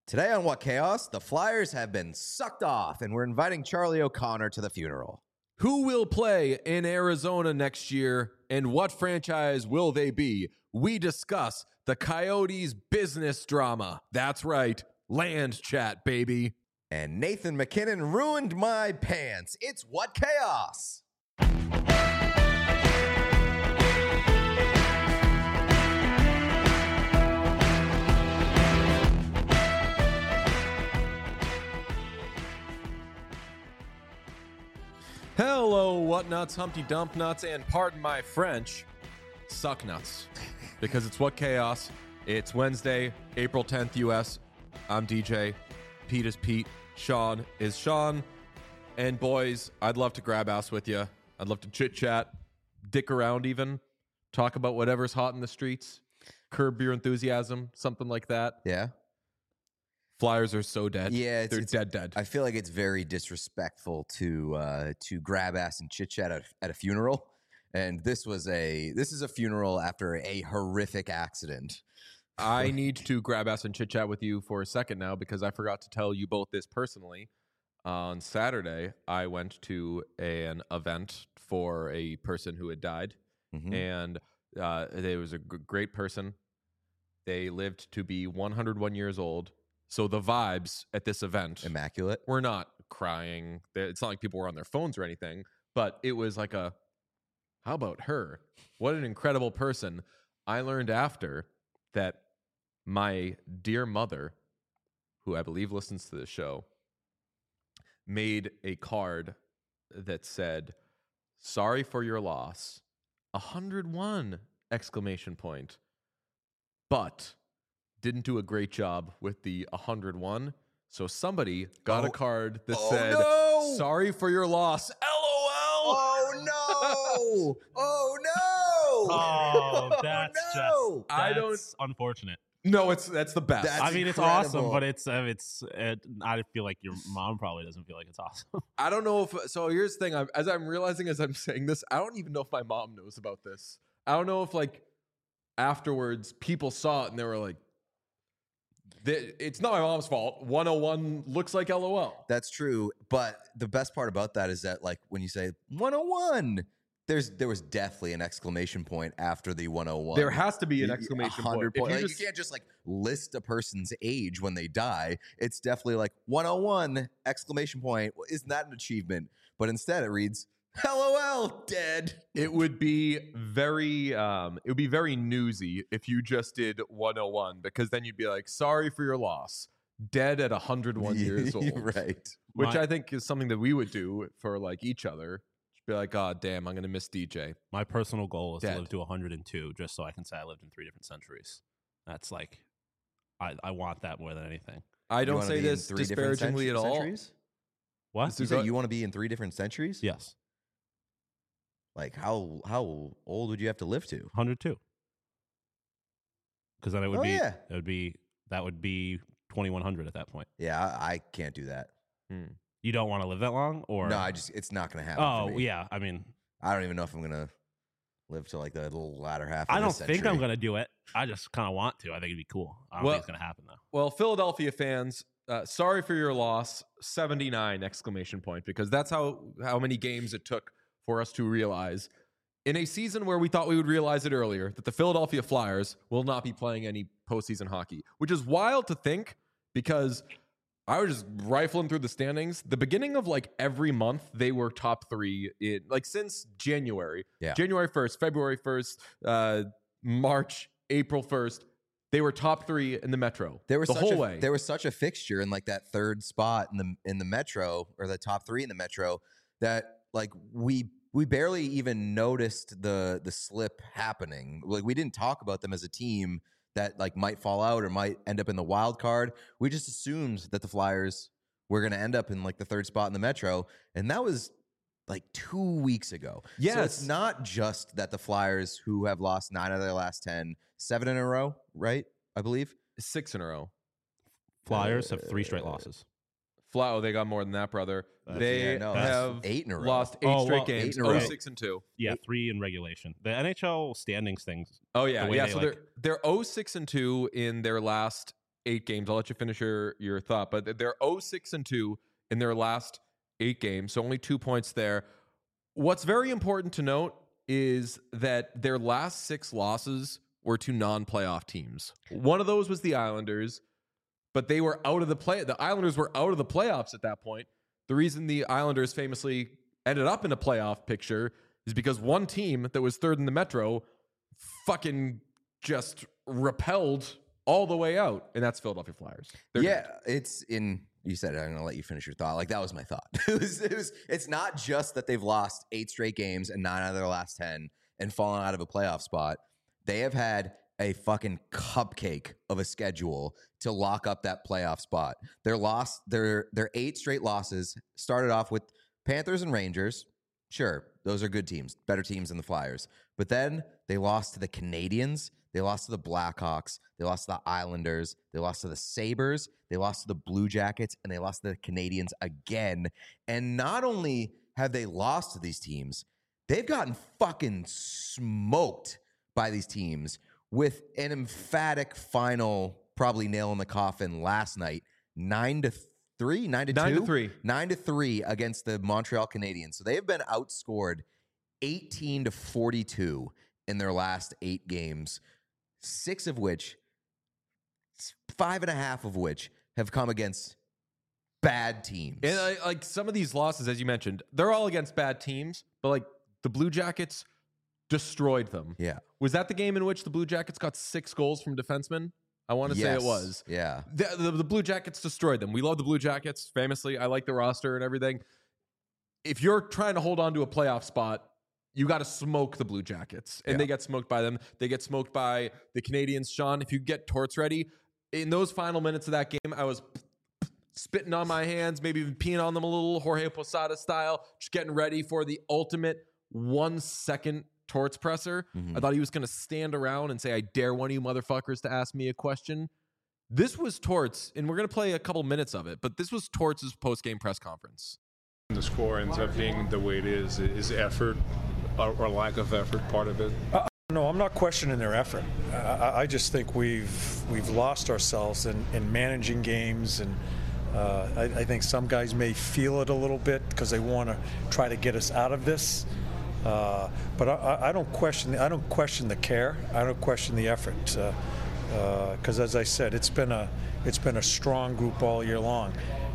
Today on What Chaos, the Flyers have been sucked off, and we're inviting Charlie O'Connor to the funeral. Who will play in Arizona next year, and what franchise will they be? We discuss the Coyotes' business drama. That's right, land chat, baby. And Nathan MacKinnon ruined my pants. It's What Chaos! Hello, what nuts, Humpty Dump nuts, and pardon my French, suck nuts. Because it's What Chaos. It's Wednesday, April 10th, US. I'm DJ. Pete is Pete. Sean is Sean. And boys, I'd love to grab ass with you. I'd love to chit chat, dick around even, talk about whatever's hot in the streets, curb your enthusiasm, something like that. Yeah? Flyers are so dead. Yeah, they're dead. I feel like it's very disrespectful to grab ass and chit chat at a funeral. And this is a funeral after a horrific accident. I need to grab ass and chit chat with you for a second now because I forgot to tell you both this personally. On Saturday, I went to an event for a person who had died, and they was a great person. They lived to be 101 years old. So the vibes at this event, Immaculate. We're not crying. It's not like people were on their phones or anything, but it was like how about her? What an incredible person. I learned after that my dear mother, who I believe listens to the show, made a card that said, "Sorry for your loss, 101!" But didn't do a great job with the 101. So somebody got a card that said, no! "Sorry for your loss, LOL." Oh no! Oh no! Oh, that's no! that's unfortunate. No, that's the best. That's I mean, it's incredible. awesome, but I feel like your mom probably doesn't feel like it's awesome. I don't know if so. Here's the thing: as I'm realizing as I'm saying this, I don't even know if my mom knows about this. I don't know if like afterwards people saw it and they were like, "It's not my mom's fault. 101 looks like LOL." That's true, but the best part about that is that, like, when you say 101, there was definitely an exclamation point after the 101. There has to be an exclamation point. 100 If point. you Like, just- you can't just like list a person's age when they die. It's definitely like 101 exclamation point. Well, isn't that an achievement? But instead it reads LOL dead. It would be very newsy if you just did 101 because then you'd be like, "Sorry for your loss, dead at 101 years old." Right. Which I think is something that we would do for like each other. Just be like, "God damn, I'm gonna miss DJ." My personal goal is Dead. to live to 102, just so I can say I lived in 3 different centuries. That's like, I want that more than anything. I You don't wanna say be in this 3 different disparagingly at all. centuries? What? You say you want to be in 3 different centuries? Yes, Like how old would you have to live to? 102. Because then it would Oh, be yeah. that would be 2100 at that point. Yeah, I can't do that. You don't want to live that long, or No, it's not going to happen. Oh for me. yeah, I mean, I don't even know if I'm gonna live to like the little latter half. I Of don't this think I'm century. gonna do it. I just kind of want to. I think it'd be cool. I don't Well- think it's gonna happen though. Well, Philadelphia fans, sorry for your loss, 79 exclamation point, because that's how many games it took for us to realize in a season where we thought we would realize it earlier that the Philadelphia Flyers will not be playing any postseason hockey, which is wild to think because I was just rifling through the standings. The beginning of like every month, they were top 3 in like since January. Yeah. January 1st, February 1st, March, April 1st. They were top 3 in the Metro. There was the such whole a, way. There was such a fixture in like that third spot in the Metro, or the top 3 in the Metro, that like we barely even noticed the slip happening. Like we didn't talk about them as a team that like might fall out or might end up in the wild card. We just assumed that the Flyers were going to end up in like the third spot in the Metro, and that was like 2 weeks ago. So Yes. it's not just that the Flyers, who have lost 9 out of their last 10, 7 in a row, right? I believe. 6 in a row. Flyers have 3 straight losses. Oh, they got more than that, brother. They yeah, no, have that's 8 in a row. lost 8 Oh, straight well, games. 8 in a row. 6-2. Yeah, 3 in regulation. The NHL standings things. Oh yeah, The way yeah. they, So like- they're 6-2 in their last 8 games. I'll let you finish your thought, but they're 0-6-2 in their last 8 games, so only 2 points there. What's very important to note is that their last 6 losses were to non-playoff teams. One of those was the Islanders, but they were out of the Islanders were out of the playoffs at that point. The reason the Islanders famously ended up in a playoff picture is because one team that was third in the Metro fucking just repelled all the way out, and that's Philadelphia Flyers. They're dead. It's in. You said it. I'm going to let you finish your thought. Like, that was my thought. It's not just that they've lost 8 straight games and 9 out of their last 10 and fallen out of a playoff spot. They have had a fucking cupcake of a schedule to lock up that playoff spot. Their 8 straight losses started off with Panthers and Rangers. Sure, those are good teams, better teams than the Flyers. But then they lost to the Canadiens. They lost to the Blackhawks. They lost to the Islanders. They lost to the Sabres. They lost to the Blue Jackets. And they lost to the Canadiens again. And not only have they lost to these teams, they've gotten fucking smoked by these teams with an emphatic final, probably nail in the coffin last night, 9-3, 9-2? 9-3 against the Montreal Canadiens. So they have been outscored 18-42 in their last 8 games. 5.5 of which have come against bad teams. And like some of these losses, as you mentioned, they're all against bad teams, but like the Blue Jackets destroyed them. Yeah. Was that the game in which the Blue Jackets got 6 goals from defensemen? I want to say it was. Yeah. The Blue Jackets destroyed them. We love the Blue Jackets, famously. I like the roster and everything. If you're trying to hold on to a playoff spot, you got to smoke the Blue Jackets. And they get smoked by them. They get smoked by the Canadiens. Sean, if you get Torts ready, in those final minutes of that game, I was spitting on my hands, maybe even peeing on them a little, Jorge Posada style, just getting ready for the ultimate 1-second Torts presser. I thought he was going to stand around and say, I dare one of you motherfuckers to ask me a question. This was Torts, and we're going to play a couple minutes of it, but this was Torts' post-game press conference. The score ends up being the way it is effort or lack of effort part of it? No, I'm not questioning their effort. I just think we've lost ourselves in managing games, and I think some guys may feel it a little bit because they want to try to get us out of this. But I don't question the care. I don't question the effort. Because as I said, it's been a strong group all year long.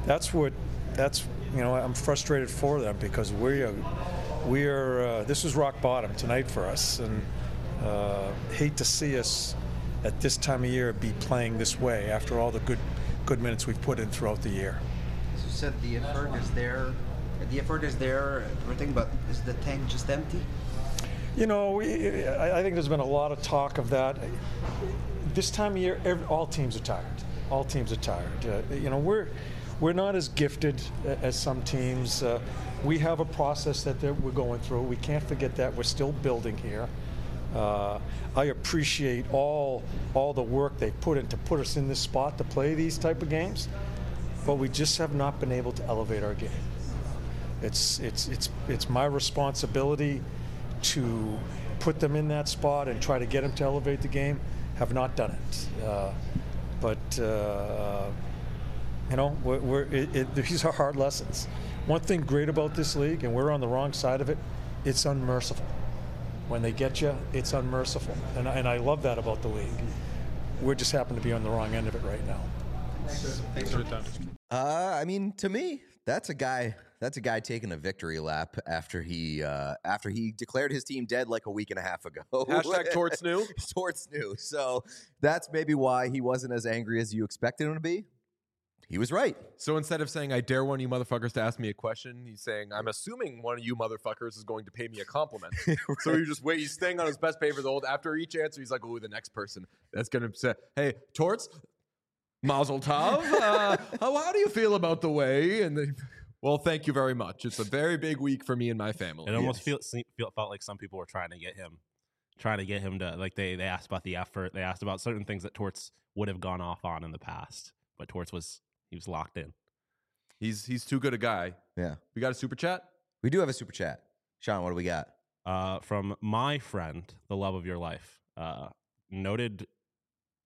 I'm frustrated for them because we are this is rock bottom tonight for us, and hate to see us at this time of year be playing this way after all the good minutes we've put in throughout the year. As you said, the effort is there. The effort is there, everything, but is the tank just empty? You know, I think there's been a lot of talk of that. This time of year, all teams are tired. All teams are tired. We're not as gifted as some teams. We have a process that we're going through. We can't forget that. We're still building here. I appreciate all the work they put in to put us in this spot to play these type of games, but we just have not been able to elevate our game. It's my responsibility to put them in that spot and try to get them to elevate the game. Have not done it, these are hard lessons. One thing great about this league, and we're on the wrong side of it, it's unmerciful. When they get you, it's unmerciful, and I love that about the league. We just happen to be on the wrong end of it right now. Thanks for your time. I mean, to me, that's a guy taking a victory lap after he declared his team dead like a week and a half ago. Hashtag Torts knew. Torts knew. So that's maybe why he wasn't as angry as you expected him to be. He was right. So instead of saying, I dare one of you motherfuckers to ask me a question, he's saying, I'm assuming one of you motherfuckers is going to pay me a compliment. Right. So he's staying on his best behavior the whole. After each answer, he's like, oh, the next person that's going to say, hey, Torts, Mazel Tov. How do you feel about the way? And well, thank you very much. It's a very big week for me and my family. It almost felt like some people were trying to get him to, like, they asked about the effort. They asked about certain things that Torts would have gone off on in the past, but Torts was locked in. He's too good a guy. Yeah. We got a super chat? We do have a super chat. Sean, what do we got? From my friend, the love of your life, noted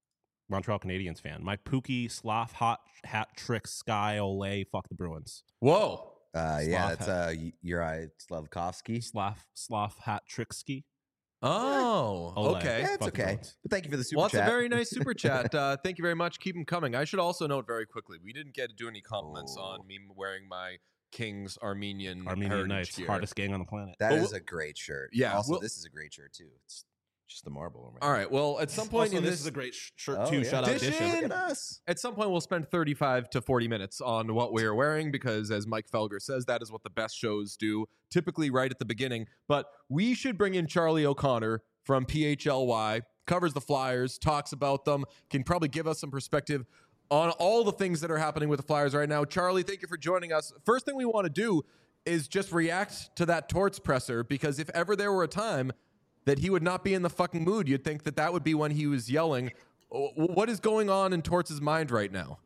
Montreal Canadiens fan. My Pookie Sloth hot hat trick Sky Ole. Fuck the Bruins. Whoa. Yeah, that's Uri Slavkovsky. Sloth hat trick ski. Oh, Ole. okay. Yeah, it's Fuck the okay. Bruins. But thank you for the super Well, that's chat. a very nice super chat. Thank you very much. Keep them coming. I should also note very quickly, we didn't get to do any compliments on me wearing my King's Armenian Armenian Knights, gear. hardest gang on the planet. That Well, is a great shirt. yeah, Also, well- this is a great shirt too. It's just the marble. All right. Well, at some point Also, in this this is a great shirt Oh, too. yeah. Shout out Edition. Edition. Look at us. At some point, we'll spend 35 to 40 minutes on what we are wearing because, as Mike Felger says, that is what the best shows do, typically right at the beginning. But we should bring in Charlie O'Connor from PHLY, covers the Flyers, talks about them, can probably give us some perspective on all the things that are happening with the Flyers right now. Charlie, thank you for joining us. First thing we want to do is just react to that Torts presser because if ever there were a time that he would not be in the fucking mood, you'd think that that would be when he was yelling. What is going on in Torts' mind right now?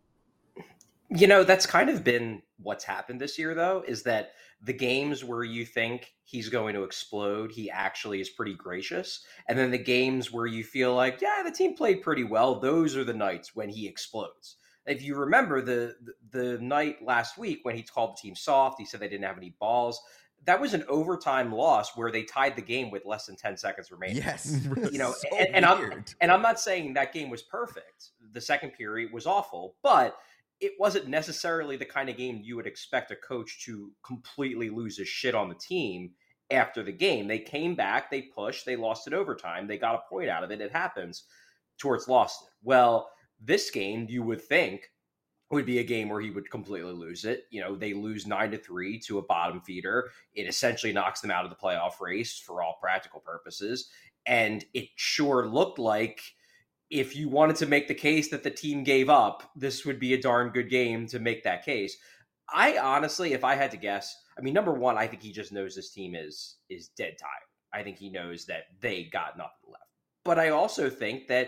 You know, that's kind of been what's happened this year, though, is that the games where you think he's going to explode, he actually is pretty gracious. And then the games where you feel like, yeah, the team played pretty well, those are the nights when he explodes. If you remember the night last week when he called the team soft, he said they didn't have any balls. That was an overtime loss where they tied the game with less than 10 seconds remaining. Yes. You know, So and weird. I'm not saying that game was perfect. The second period was awful, but it wasn't necessarily the kind of game you would expect a coach to completely lose his shit on the team after the game. They came back, they pushed, they lost it overtime, they got a point out of it. It happens. Torts lost it. Well, this game, you would think, would be a game where he would completely lose it. You know, they lose 9-3 to a bottom feeder. It essentially knocks them out of the playoff race for all practical purposes. And it sure looked like if you wanted to make the case that the team gave up, this would be a darn good game to make that case. I honestly, if I had to guess, I mean, number one, I think he just knows this team is dead tired. I think he knows that they got nothing left. But I also think that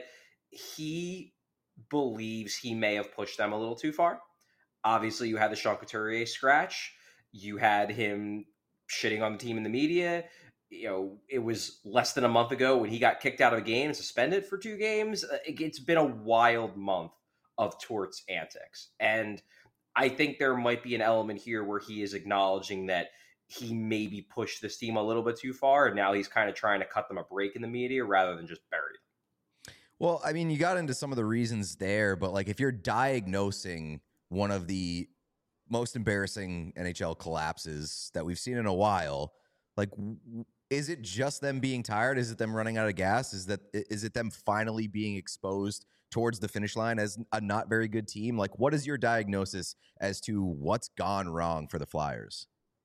he believes he may have pushed them a little too far. Obviously, you had the Sean Couturier scratch. You had him shitting on the team in the media. You know, it was less than a month ago when he got kicked out of a game and suspended for 2 games. It's been a wild month of Torts antics. And I think there might be an element here where he is acknowledging that he maybe pushed this team a little bit too far, and now he's kind of trying to cut them a break in the media rather than just bury them. Well, I mean, you got into some of the reasons there, but like if you're diagnosing one of the most embarrassing NHL collapses that we've seen in a while, like is it just them being tired? Is it them running out of gas? Is it them finally being exposed towards the finish line as a not very good team? Like, what is your diagnosis as to what's gone wrong for the Flyers?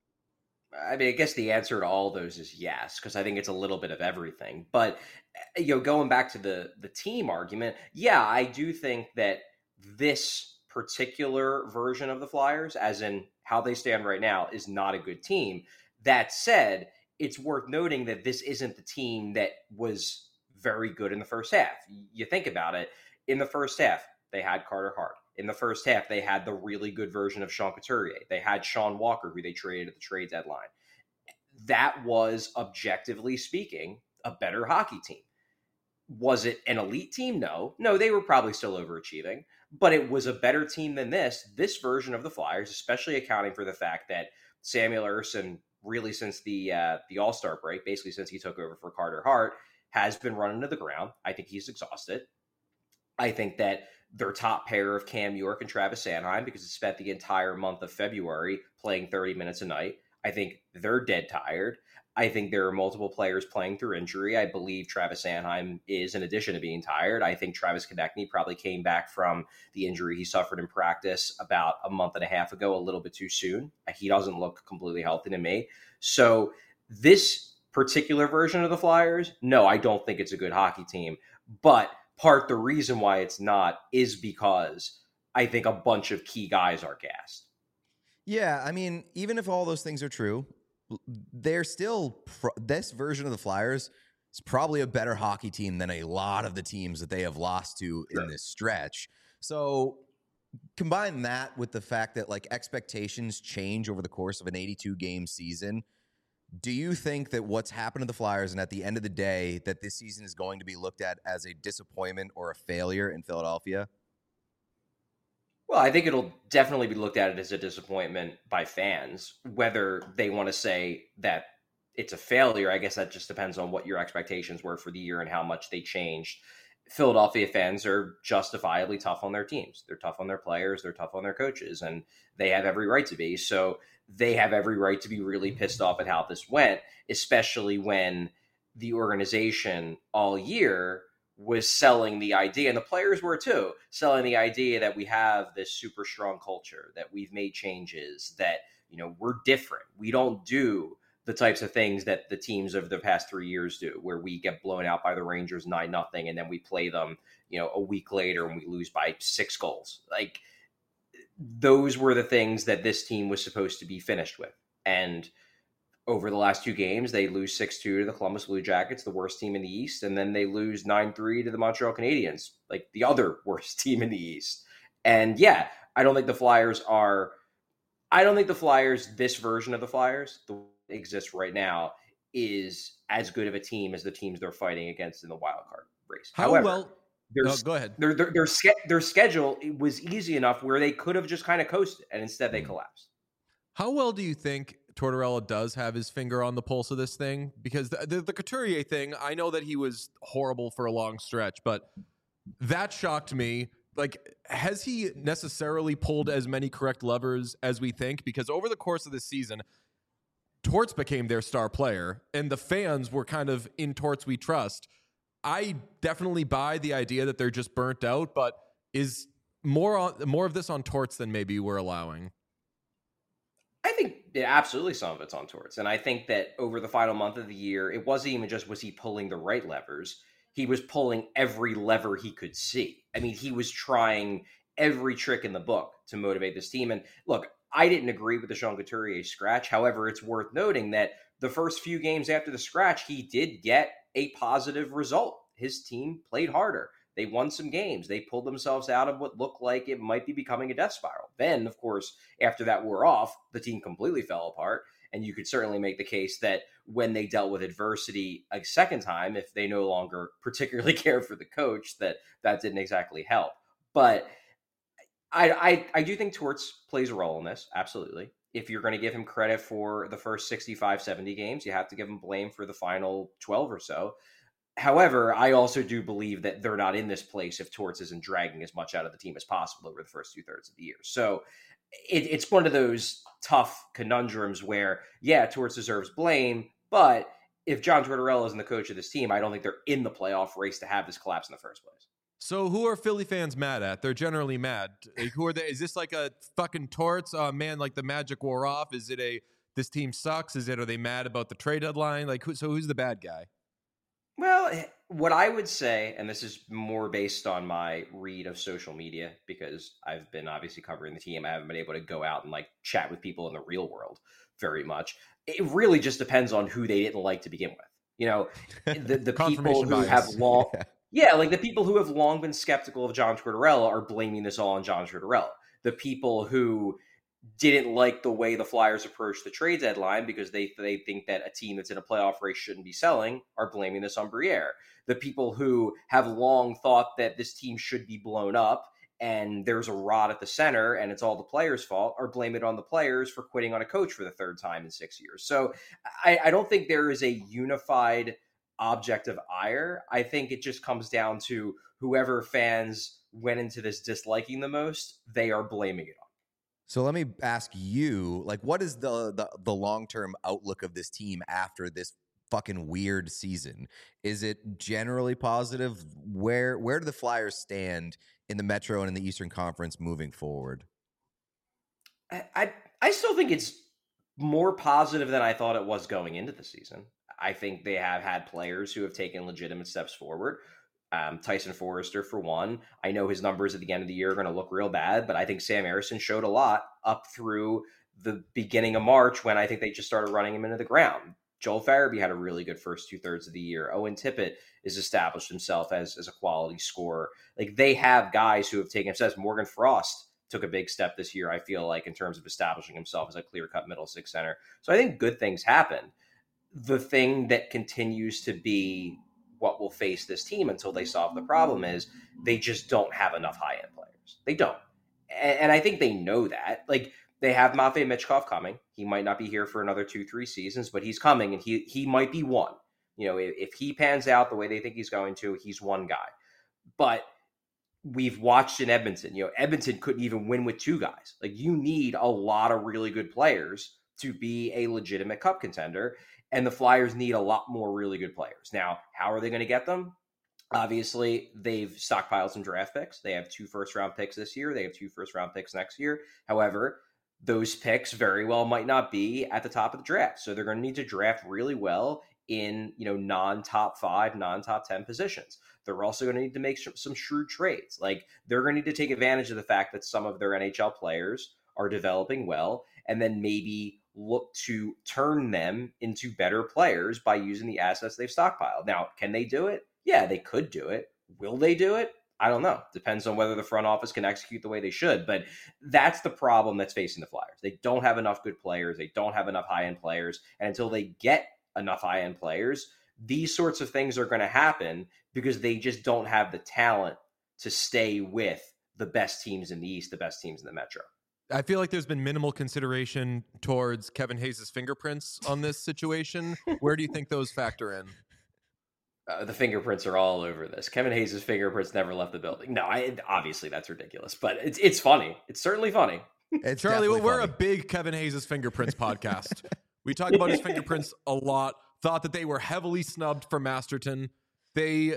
I mean, I guess the answer to all those is yes, because I think it's a little bit of everything. But, you know, going back to the team argument, yeah, I do think that this particular version of the Flyers, as in how they stand right now, is not a good team. That said, it's worth noting that this isn't the team that was very good in the first half. You think about it, in the first half, they had Carter Hart. In the first half, they had the really good version of Sean Couturier. They had Sean Walker, who they traded at the trade deadline. That was, objectively speaking, a better hockey team. Was it an elite team? No. No, they were probably still overachieving, but it was a better team than this. This version of the Flyers, especially accounting for the fact that Samuel Ersson, really since the All-Star break, basically since he took over for Carter Hart, has been running to the ground. I think he's exhausted. I think that their top pair of Cam York and Travis Sanheim, because it spent the entire month of February playing 30 minutes a night, I think they're dead tired. I think there are multiple players playing through injury. I believe Travis Sanheim is, in addition to being tired. I think Travis Konechny probably came back from the injury he suffered in practice about a month and a half ago, a little bit too soon. He doesn't look completely healthy to me. So this particular version of the Flyers, no, I don't think it's a good hockey team. But the reason why it's not is because I think a bunch of key guys are gassed. Yeah, I mean, even if all those things are true, they're still this version of the Flyers is probably a better hockey team than a lot of the teams that they have lost to in this stretch. So combine that with the fact that like expectations change over the course of an 82 game season. Do you think that what's happened to the Flyers, and at the end of the day, that this season is going to be looked at as a disappointment or a failure in Philadelphia? Well, I think it'll definitely be looked at as a disappointment by fans. Whether they want to say that it's a failure, I guess that just depends on what your expectations were for the year and how much they changed. Philadelphia fans are justifiably tough on their teams. They're tough on their players. They're tough on their coaches, and they have every right to be. So they have every right to be really pissed off at how this went, especially when the organization all year was selling the idea, and the players were too, selling the idea that we have this super strong culture, that we've made changes, that, you know, we're different. We don't do the types of things that the teams of the past 3 years do, where we get blown out by the Rangers 9-0, and then we play them, you know, a week later and we lose by 6 goals. Like, those were the things that this team was supposed to be finished with. And over the last 2 games, they lose 6-2 to the Columbus Blue Jackets, the worst team in the East, and then they lose 9-3 to the Montreal Canadiens, like the other worst team in the East. And yeah, I don't think the Flyers, this version of the Flyers, the exists right now, is as good of a team as the teams they're fighting against in the wild card race. However, go ahead. Their schedule was easy enough where they could have just kind of coasted, and instead they collapsed. How well do you think Tortorella does have his finger on the pulse of this thing? Because the Couturier thing, I know that he was horrible for a long stretch, but that shocked me. Like, has he necessarily pulled as many correct levers as we think? Because over the course of this season, Torts became their star player, and the fans were kind of in Torts we trust. I definitely buy the idea that they're just burnt out, but is more of this on Torts than maybe we're allowing? I think absolutely some of it's on Torts. And I think that over the final month of the year, it wasn't even just was he pulling the right levers. He was pulling every lever he could see. I mean, he was trying every trick in the book to motivate this team. And look, I didn't agree with the Sean Couturier scratch. However, it's worth noting that the first few games after the scratch, he did get a positive result. His team played harder. They won some games. They pulled themselves out of what looked like it might be becoming a death spiral. Then, of course, after that wore off, the team completely fell apart. And you could certainly make the case that when they dealt with adversity a second time, if they no longer particularly cared for the coach, that didn't exactly help. But I do think Torts plays a role in this, absolutely. If you're going to give him credit for the first 65, 70 games, you have to give him blame for the final 12 or so. However, I also do believe that they're not in this place if Torts isn't dragging as much out of the team as possible over the first 2/3 of the year. So it's one of those tough conundrums where, yeah, Torts deserves blame, but if John Tortorella isn't the coach of this team, I don't think they're in the playoff race to have this collapse in the first place. So who are Philly fans mad at? They're generally mad. Like, who are they? Is this like a fucking Torts? Man, like the magic wore off? Is it this team sucks? Are they mad about the trade deadline? Like, who's the bad guy? Well, what I would say, and this is more based on my read of social media, because I've been obviously covering the team. I haven't been able to go out and like chat with people in the real world very much. It really just depends on who they didn't like to begin with. You know, the people who have long, like the people who have long been skeptical of John Tortorella are blaming this all on John Tortorella. The people who didn't like the way the Flyers approached the trade deadline because they think that a team that's in a playoff race shouldn't be selling are blaming this on Briere. The people who have long thought that this team should be blown up and there's a rot at the center and it's all the players' fault are blaming it on the players for quitting on a coach for the third time in 6 years. So I don't think there is a unified object of ire. I think it just comes down to whoever fans went into this disliking the most, they are blaming it on. So let me ask you, like, what is the long-term outlook of this team after this fucking weird season? Is it generally positive? Where do the Flyers stand in the Metro and in the Eastern Conference moving forward? I still think it's more positive than I thought it was going into the season. I think they have had players who have taken legitimate steps forward. Tyson Forrester, for one. I know his numbers at the end of the year are going to look real bad, but I think Sam Ersson showed a lot up through the beginning of March when I think they just started running him into the ground. Joel Farabee had a really good first 2/3 of the year. Owen Tippett has established himself as a quality scorer. Like, they have guys who have taken steps. Morgan Frost took a big step this year, I feel like, in terms of establishing himself as a clear-cut middle six center. So I think good things happen. the thing that continues to be what will face this team until they solve the problem is they just don't have enough high-end players. They don't. And I think they know that. Like, they have Matvei Michkov coming. He might not be here for another 2-3 seasons, but he's coming, and he might be one. You know, if he pans out the way they think he's going to, he's one guy. But we've watched in Edmonton, you know, Edmonton couldn't even win with two guys. Like, you need a lot of really good players to be a legitimate cup contender, and the Flyers need a lot more really good players. Now, how are they going to get them? Obviously, they've stockpiled some draft picks. They have 2 first-round picks this year. They have 2 first-round picks next year. However, those picks very well might not be at the top of the draft. So they're going to need to draft really well in, you know, non-top 5, non-top 10 positions. They're also going to need to make some shrewd trades. Like, they're going to need to take advantage of the fact that some of their NHL players are developing well, and then maybe look to turn them into better players by using the assets they've stockpiled. Now, can they do it? Yeah, they could do it. Will they do it? I don't know. Depends on whether the front office can execute the way they should. But that's the problem that's facing the Flyers. They don't have enough good players. They don't have enough high-end players. And until they get enough high-end players, these sorts of things are going to happen because they just don't have the talent to stay with the best teams in the East, the best teams in the Metro. I feel like there's been minimal consideration towards Kevin Hayes' fingerprints on this situation. Where do you think those factor in? The fingerprints are all over this. Kevin Hayes' fingerprints never left the building. No, obviously that's ridiculous, but it's funny. It's certainly funny. It's Charlie, well, we're funny. a big Kevin Hayes' fingerprints podcast. We talk about his fingerprints a lot. Thought that they were heavily snubbed for Masterton. They,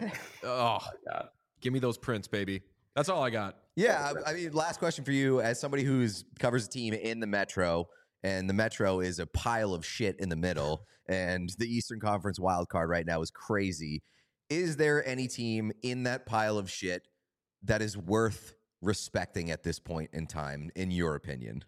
give me those prints, baby. That's all I got. Yeah, I mean, last question for you, as somebody who's covers a team in the Metro, and the Metro is a pile of shit in the middle, and the Eastern Conference wild card right now is crazy. Is there any team in that pile of shit that is worth respecting at this point in time, in your opinion?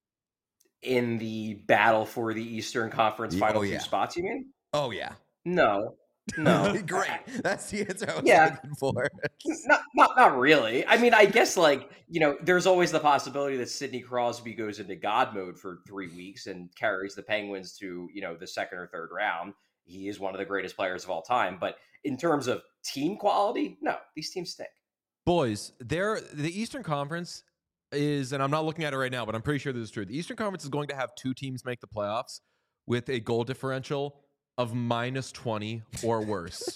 In the battle for the Eastern Conference final 2 spots, you mean? Oh, yeah. No. Great. That's the answer I was looking for. Not really. I mean, I guess, like, you know, there's always the possibility that Sidney Crosby goes into God mode for 3 weeks and carries the Penguins to, you know, the second or third round. He is one of the greatest players of all time. But in terms of team quality, no, these teams stink. Boys, the Eastern Conference is, and I'm not looking at it right now, but I'm pretty sure this is true. The Eastern Conference is going to have 2 teams make the playoffs with a goal differential of -20 or worse.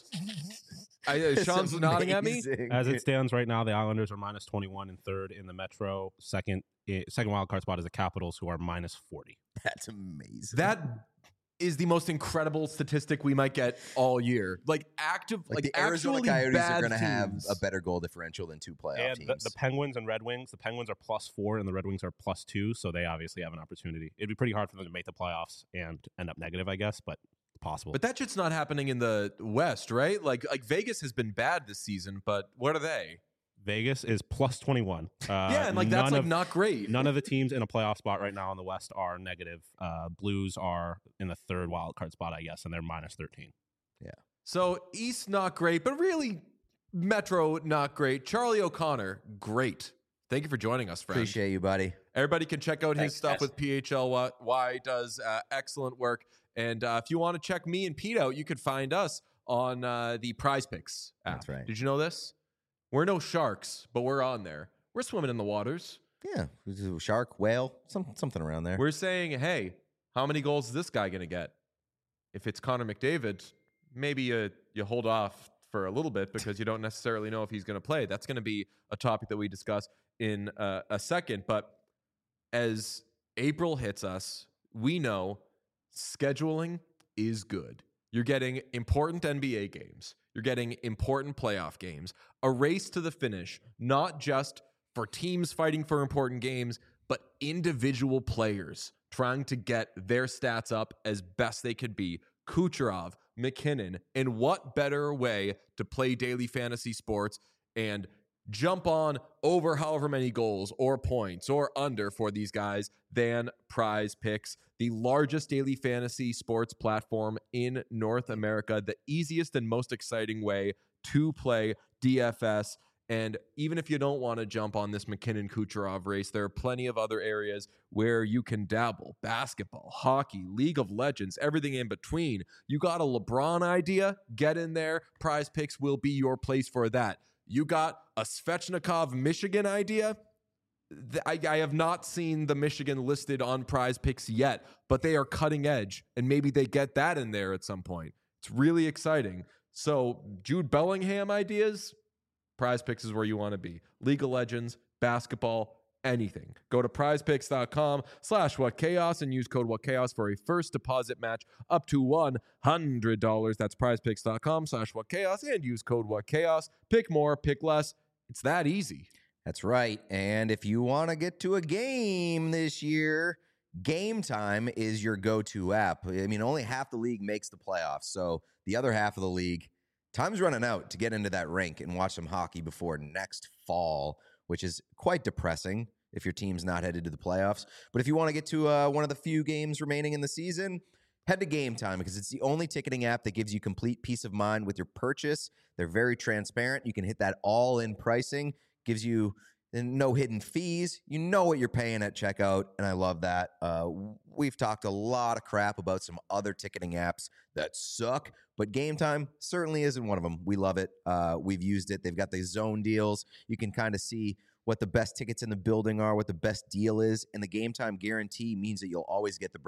Sean's nodding at me. As it stands right now, the Islanders are -21 and third in the Metro. Second wild card spot is the Capitals, who are -40. That's amazing. That is the most incredible statistic we might get all year. Like the Arizona Coyotes are going to have a better goal differential than 2 playoff teams. The Penguins and Red Wings. The Penguins are +4 and the Red Wings are +2, so they obviously have an opportunity. It'd be pretty hard for them to make the playoffs and end up negative, I guess, but possible. But that shit's not happening in the West, right? Like Vegas has been bad this season, but what are they? Vegas is +21. Yeah, and like that's like not great. None of the teams in a playoff spot right now in the West are negative. Blues are in the third wild card spot, I guess, and they're -13. Yeah. So East not great, but really Metro not great. Charlie O'Connor, great. Thank you for joining us, friend. Appreciate you, buddy. Everybody can check out his stuff with PHLY. Does excellent work. And if you want to check me and Pete out, you could find us on the Prize Picks app. That's right. Did you know this? We're no sharks, but we're on there. We're swimming in the waters. Yeah. Shark, whale, something around there. We're saying, hey, how many goals is this guy going to get? If it's Connor McDavid, maybe you hold off for a little bit because you don't necessarily know if he's going to play. That's going to be a topic that we discuss in a second. But as April hits us, we know scheduling is good. You're getting important NBA games. You're getting important playoff games. A race to the finish, not just for teams fighting for important games, but individual players trying to get their stats up as best they could be. Kucherov, McKinnon, and what better way to play daily fantasy sports and jump on over however many goals or points or under for these guys than Prize Picks, the largest daily fantasy sports platform in North America, the easiest and most exciting way to play DFS. And even if you don't want to jump on this McKinnon Kucherov race, there are plenty of other areas where you can dabble. Basketball, hockey, League of Legends, everything in between. You got a LeBron idea? Get in there. Prize Picks will be your place for that. You got a Svechnikov Michigan idea? I have not seen the Michigan listed on Prize Picks yet, but they are cutting edge, and maybe they get that in there at some point. It's really exciting. So Jude Bellingham ideas? Prize Picks is where you want to be. League of Legends, basketball, anything. Go to prizepicks.com/whatchaos and use code whatchaos for a first deposit match up to $100. That's prizepicks.com/whatchaos and use code whatchaos. Pick more, pick less. It's that easy. That's right. And if you want to get to a game this year, Game Time is your go-to app. I mean, only half the league makes the playoffs. So the other half of the league, time's running out to get into that rink and watch some hockey before next fall, which is quite depressing if your team's not headed to the playoffs. But if you want to get to one of the few games remaining in the season, head to Game Time because it's the only ticketing app that gives you complete peace of mind with your purchase. They're very transparent. You can hit that all-in pricing, gives you no hidden fees. You know what you're paying at checkout, and I love that. We've talked a lot of crap about some other ticketing apps that suck, but Game Time certainly isn't one of them. We love it. We've used it. They've got the zone deals. You can kind of see what the best tickets in the building are, what the best deal is, and the Game Time guarantee means that you'll always get the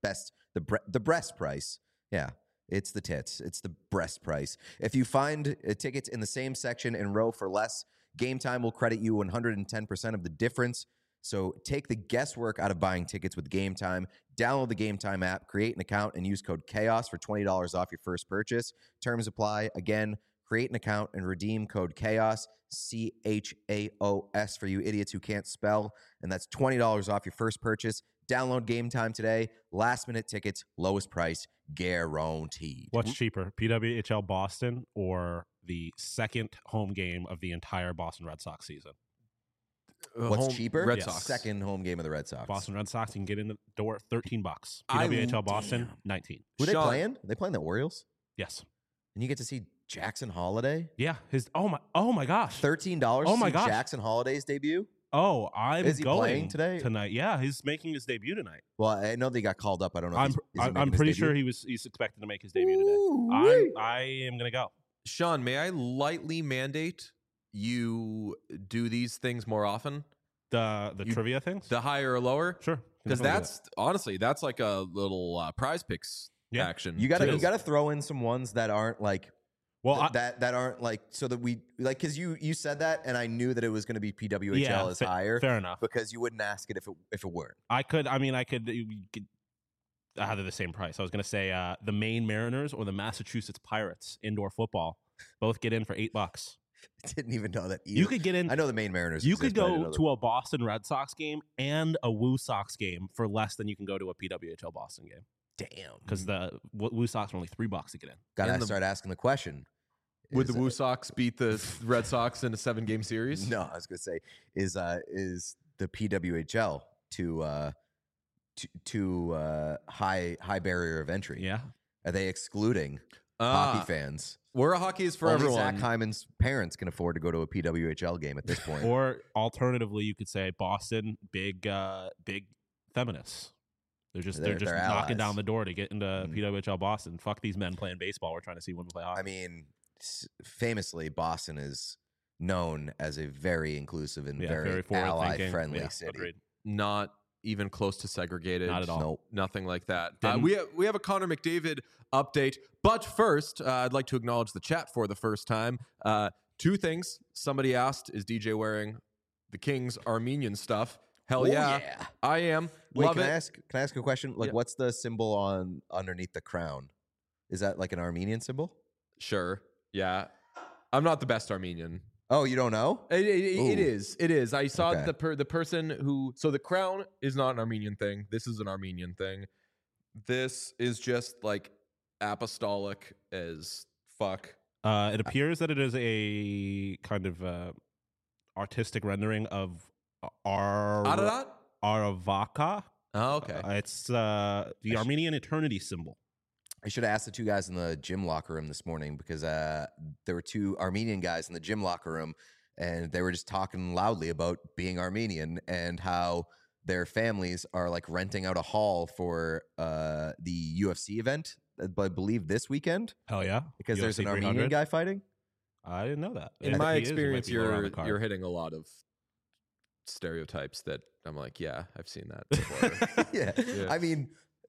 breast price. Yeah, it's the tits. It's the breast price. If you find tickets in the same section and row for less, Game Time will credit you 110% of the difference. So take the guesswork out of buying tickets with Game Time. Download the Game Time app, create an account, and use code CHAOS for $20 off your first purchase. Terms apply. Again, create an account and redeem code CHAOS, CHAOS, for you idiots who can't spell. And that's $20 off your first purchase. Download Game Time today. Last-minute tickets, lowest price, guaranteed. What's cheaper, PWHL Boston or the second home game of the entire Boston Red Sox season? What's cheaper? Red Sox. Second home game of the Red Sox. Boston Red Sox, you can get in the door $13. PWHL Boston, 19. Who are they Sean- playing? Are they playing the Orioles? Yes. And you get to see Jackson Holiday? Yeah. Oh my gosh. $13 Oh my to see gosh. Jackson Holiday's debut? Oh, I'm Is he going playing today? Tonight. Yeah, he's making his debut tonight. Well, I know they got called up. I don't know. If I'm pretty sure he's expected to make his debut today. I am gonna go. Sean, may I lightly mandate you do these things more often? The trivia things? The higher or lower? Sure. Because Definitely do that's honestly, that's like a little Prize Picks Yeah. action. You gotta too. you gotta throw in some ones that aren't like Well, that aren't like so that we like because you said that and I knew that it was going to be PWHL Yeah, is higher. fair enough. Because you wouldn't ask it if it weren't. I could either the same price. I was going to say the Maine Mariners or the Massachusetts Pirates indoor football. Both get in for $8. I didn't even know that. Either. You could get in. I know the Maine Mariners. You exist, could but I didn't go know to a Boston Red Sox game and a Woo Sox game for less than you can go to a PWHL Boston game damn. because the Woo Sox are only $3 to get in. Gotta in the- start asking the question. Would Is, the Woo Sox beat the Red Sox in a 7-game series? No, I was gonna say is the PWHL to high barrier of entry? Yeah. Are they excluding hockey fans? Where a hockey is for Only everyone. Zach Hyman's parents can afford to go to a PWHL game at this point. Or alternatively, you could say Boston, big feminists. They're just They're knocking allies. down the door to get into PWHL Boston. Fuck these men playing baseball. We're trying to see women play hockey. I mean, famously, Boston is known as a very inclusive and very forward-thinking. ally-friendly Yeah, city. agreed. Not even close to segregated. Not at all. Nope. Nothing like that. Didn't- We have a Connor McDavid update. But first, I'd like to acknowledge the chat for the first time. Two things. Somebody asked, is DJ wearing the Kings Armenian stuff? Hell Oh, yeah. yeah. I am. Wait, Love can it. I ask a question? Like, Yeah. what's the symbol on underneath the crown? Is that like an Armenian symbol? Sure. Yeah. I'm not the best Armenian. Oh, you don't know? It Ooh. is. It is. I saw Okay. the person who. So the crown is not an Armenian thing. This is an Armenian thing. This is just like apostolic as fuck. It appears that it is a kind of artistic rendering of Ararat? Aravaka. Oh, okay. It's the Armenian eternity symbol. I should have asked the two guys in the gym locker room this morning because there were two Armenian guys in the gym locker room and they were just talking loudly about being Armenian and how their families are like renting out a hall for the UFC event, I believe this weekend, Hell yeah. because there's an UFC Armenian 300? guy fighting. I didn't know that. In If my he is, it might experience, be lower on the card. you're hitting a lot of stereotypes that I'm like, yeah, I've seen that before. Yeah. Yeah. I mean,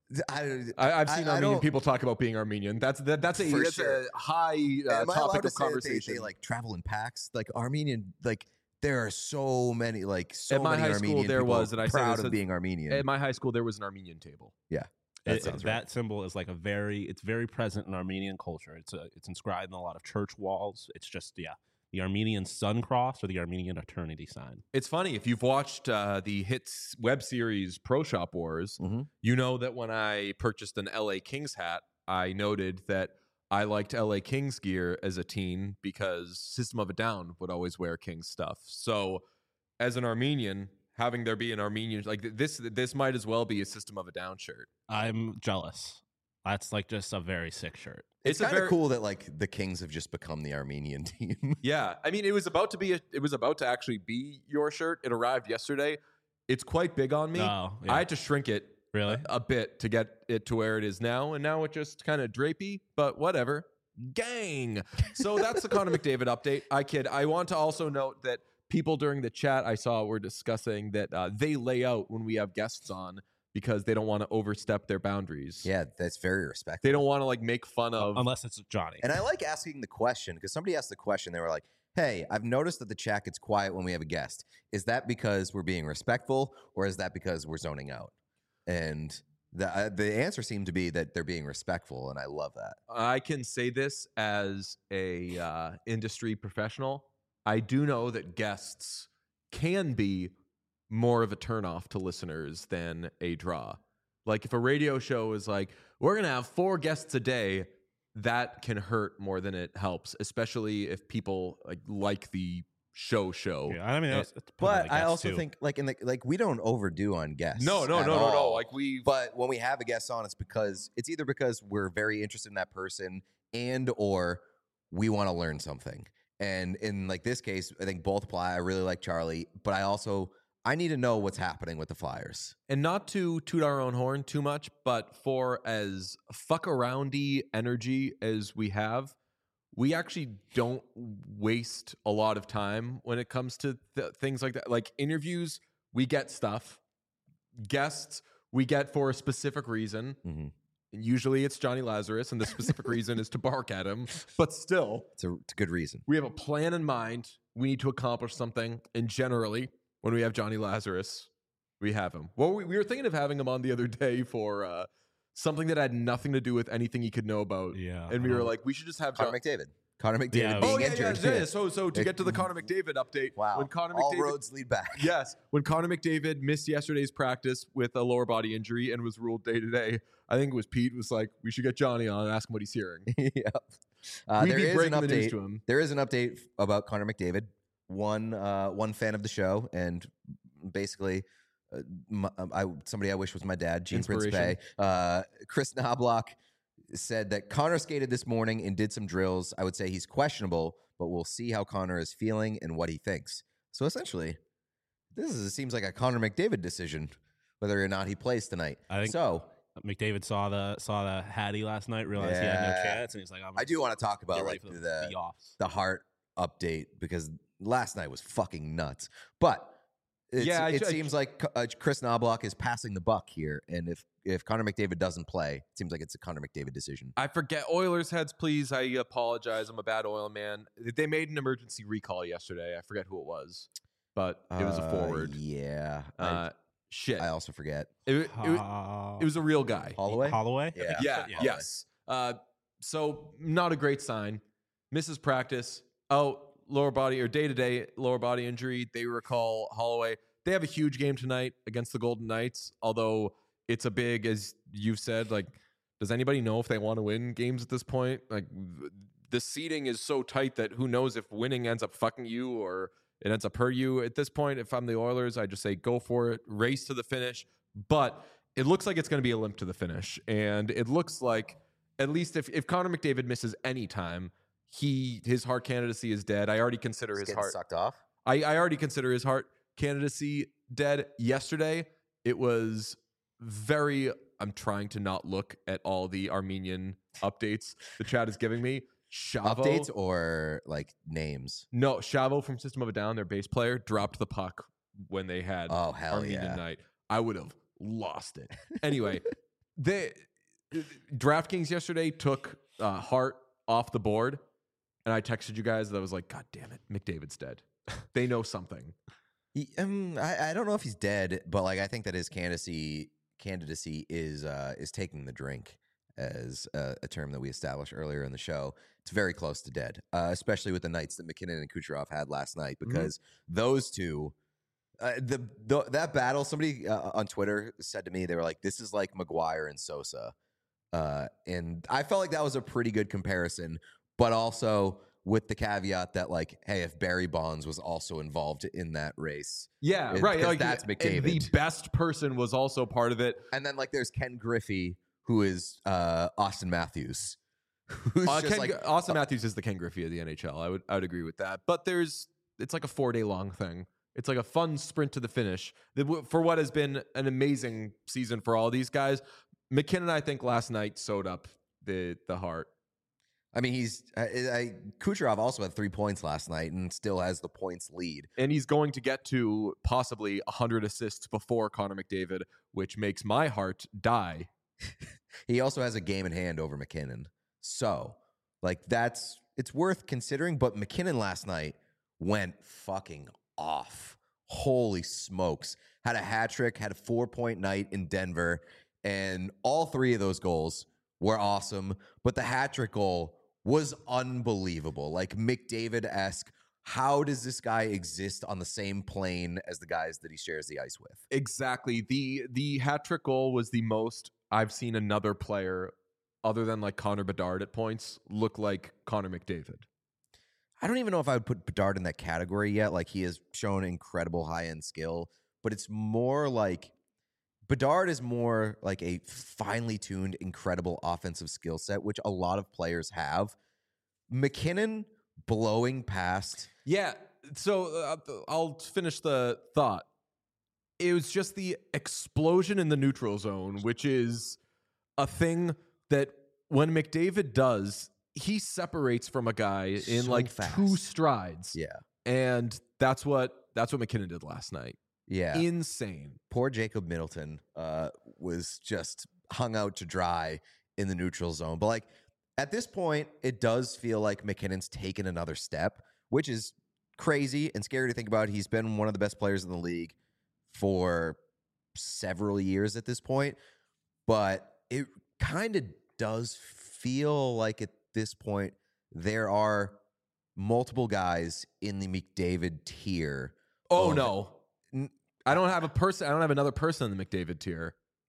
I've seen I Armenian don't- people talk about being Armenian. That's For a sure. high Am I allowed topic to of say that conversation. they like travel in packs, like Armenian, like there are so many, like so At my many high school, Armenian there people was, and I said proud this of at- being Armenian. At my high school, there was an Armenian table. That sounds right. That symbol is like it's very present in Armenian culture. It's inscribed in a lot of church walls. It's just the Armenian sun cross or the Armenian eternity sign. It's funny if you've watched the hits web series Pro Shop Wars. Mhm. You know that when I purchased an LA Kings hat, I noted that I liked LA Kings gear as a teen because System of a Down would always wear Kings stuff. So, as an Armenian, having there be an Armenian like this might as well be a System of a Down shirt. I'm jealous. That's like just a very sick shirt. It's a kind of very- cool that like the Kings have just become the Armenian team. Yeah, I mean, it was about to actually be your shirt. It arrived yesterday. It's quite big on me. Oh, yeah. I had to shrink it Really? a bit to get it to where it is now, and now it just kind of drapey, but whatever. Gang. So that's the Connor McDavid update. I kid. I want to also note that people during the chat I saw were discussing that they lay out when we have guests on because they don't want to overstep their boundaries. Yeah, that's very respectful. They don't want to like make fun of. Unless it's Johnny. And I like asking the question because somebody asked the question. They were like, "Hey, I've noticed that the chat gets quiet when we have a guest. Is that because we're being respectful, or is that because we're zoning out?" And the answer seemed to be that they're being respectful, and I love that. I can say this as a industry professional. I do know that guests can be more of a turnoff to listeners than a draw. Like if a radio show is like, we're going to have 4 guests a day, that can hurt more than it helps, especially if people like the show. Yeah, I mean, it's But I also think like we don't overdo on guests. No. at all. Like But when we have a guest on, it's either because we're very interested in that person and or we want to learn something. And in like this case, I think both apply. I really like Charlie, but I need to know what's happening with the Flyers. And not to toot our own horn too much, but for as fuck aroundy energy as we have, we actually don't waste a lot of time when it comes to things like that. Like interviews, we get stuff. Guests, we get for a specific reason. Mm-hmm. And usually it's Johnny Lazarus, and the specific reason is to bark at him. But still, It's a good reason. we have a plan in mind. We need to accomplish something. And generally, when we have Johnny Lazarus, we have him. Well, we were thinking of having him on the other day for something that had nothing to do with anything he could know about. Yeah. And we were like, we should just have Connor McDavid. Connor McDavid Yeah, being Oh, yeah, injured. yeah. So to get to the Connor McDavid update. Wow. When Connor All McDavid, roads lead back. yes. When Connor McDavid missed yesterday's practice with a lower body injury and was ruled day to day, I think it was Pete was like, we should get Johnny on and ask him what he's hearing. Yep. We'd There be is an breaking the news update. to him. There is an update about Connor McDavid. One fan of the show, and basically, somebody I wish was my dad, Gene Principe. Chris Knobloch said that Connor skated this morning and did some drills. I would say he's questionable, but we'll see how Connor is feeling and what he thinks. So essentially, seems like a Connor McDavid decision, whether or not he plays tonight. I think so. McDavid saw the Hattie last night, realized he had no Yeah. chance, and he's like, I do want to talk about get like ready for the offs. Hart update because last night was fucking nuts. But it seems like Chris Knobloch is passing the buck here, and if Connor McDavid doesn't play, it seems like it's a Connor McDavid decision. I forget. Oilers heads, please. I apologize. I'm a bad oil man. They made an emergency recall yesterday. I forget who it was, but it was a forward. Yeah. Shit. I also forget. It was a real guy. Holloway? Yeah. Yes. So not a great sign. Misses practice. Oh, lower body or day-to-day lower body injury. They recall Holloway. They have a huge game tonight against the Golden Knights, although it's a big, as you've said, like, does anybody know if they want to win games at this point? Like, the seeding is so tight that who knows if winning ends up fucking you or it ends up hurt you. At this point, if I'm the Oilers, I just say go for it, race to the finish. But it looks like it's going to be a limp to the finish. And it looks like, at least if Connor McDavid misses any time, his Hart candidacy is dead. I already consider He's his getting Hart. sucked off. I already consider his Hart candidacy dead. Yesterday, it was very. I'm trying to not look at all the Armenian updates the chat is giving me. Shavo, Updates or like names? no, Shavo from System of a Down, their bass player, dropped the puck when they had Oh, hell Armenian yeah. night. I would have lost it. Anyway, DraftKings yesterday took Hart off the board, and I texted you guys that I was like, God damn it, McDavid's dead. They know something. I don't know if he's dead, but like I think that his candidacy is taking the drink, as a term that we established earlier in the show. It's very close to dead, especially with the nights that McKinnon and Kucherov had last night, because those two, that battle. Somebody on Twitter said to me, they were like, "This is like McGuire and Sosa," and I felt like that was a pretty good comparison, but also with the caveat that, like, hey, if Barry Bonds was also involved in that race, Yeah, It- right. 'cause Like, that's and McDavid. the best person was also part of it. and then like there's Ken Griffey, who is Austin Matthews, who's just Austin Matthews is the Ken Griffey of the NHL. I would agree with that. But it's like a 4-day long thing. It's like a fun sprint to the finish for what has been an amazing season for all these guys. McKinnon, I think, last night sewed up the Hart. I mean, Kucherov also had 3 points last night and still has the points lead. And he's going to get to possibly 100 assists before Connor McDavid, which makes my heart die. He also has a game in hand over McKinnon. So, like, it's worth considering. But McKinnon last night went fucking off. Holy smokes. Had a hat trick, had a 4-point night in Denver. And all 3 of those goals were awesome. But the hat trick goal was unbelievable. Like McDavid-esque. How does this guy exist on the same plane as the guys that he shares the ice with? Exactly. The hat trick goal was the most I've seen another player other than like Connor Bedard at points look like Connor McDavid. I don't even know if I would put Bedard in that category yet. Like, he has shown incredible high-end skill, but it's more like Bedard is more like a finely tuned, incredible offensive skill set, which a lot of players have. McKinnon blowing past. Yeah. So I'll finish the thought. It was just the explosion in the neutral zone, which is a thing that when McDavid does, he separates from a guy in So like fast. 2 strides. Yeah. And that's what McKinnon did last night. Yeah. Insane. Poor Jacob Middleton was just hung out to dry in the neutral zone. But like at this point, it does feel like McKinnon's taken another step, which is crazy and scary to think about. He's been one of the best players in the league for several years at this point. But it kind of does feel like at this point there are multiple guys in the McDavid tier. Oh, of- no. I don't have another person in the McDavid tier.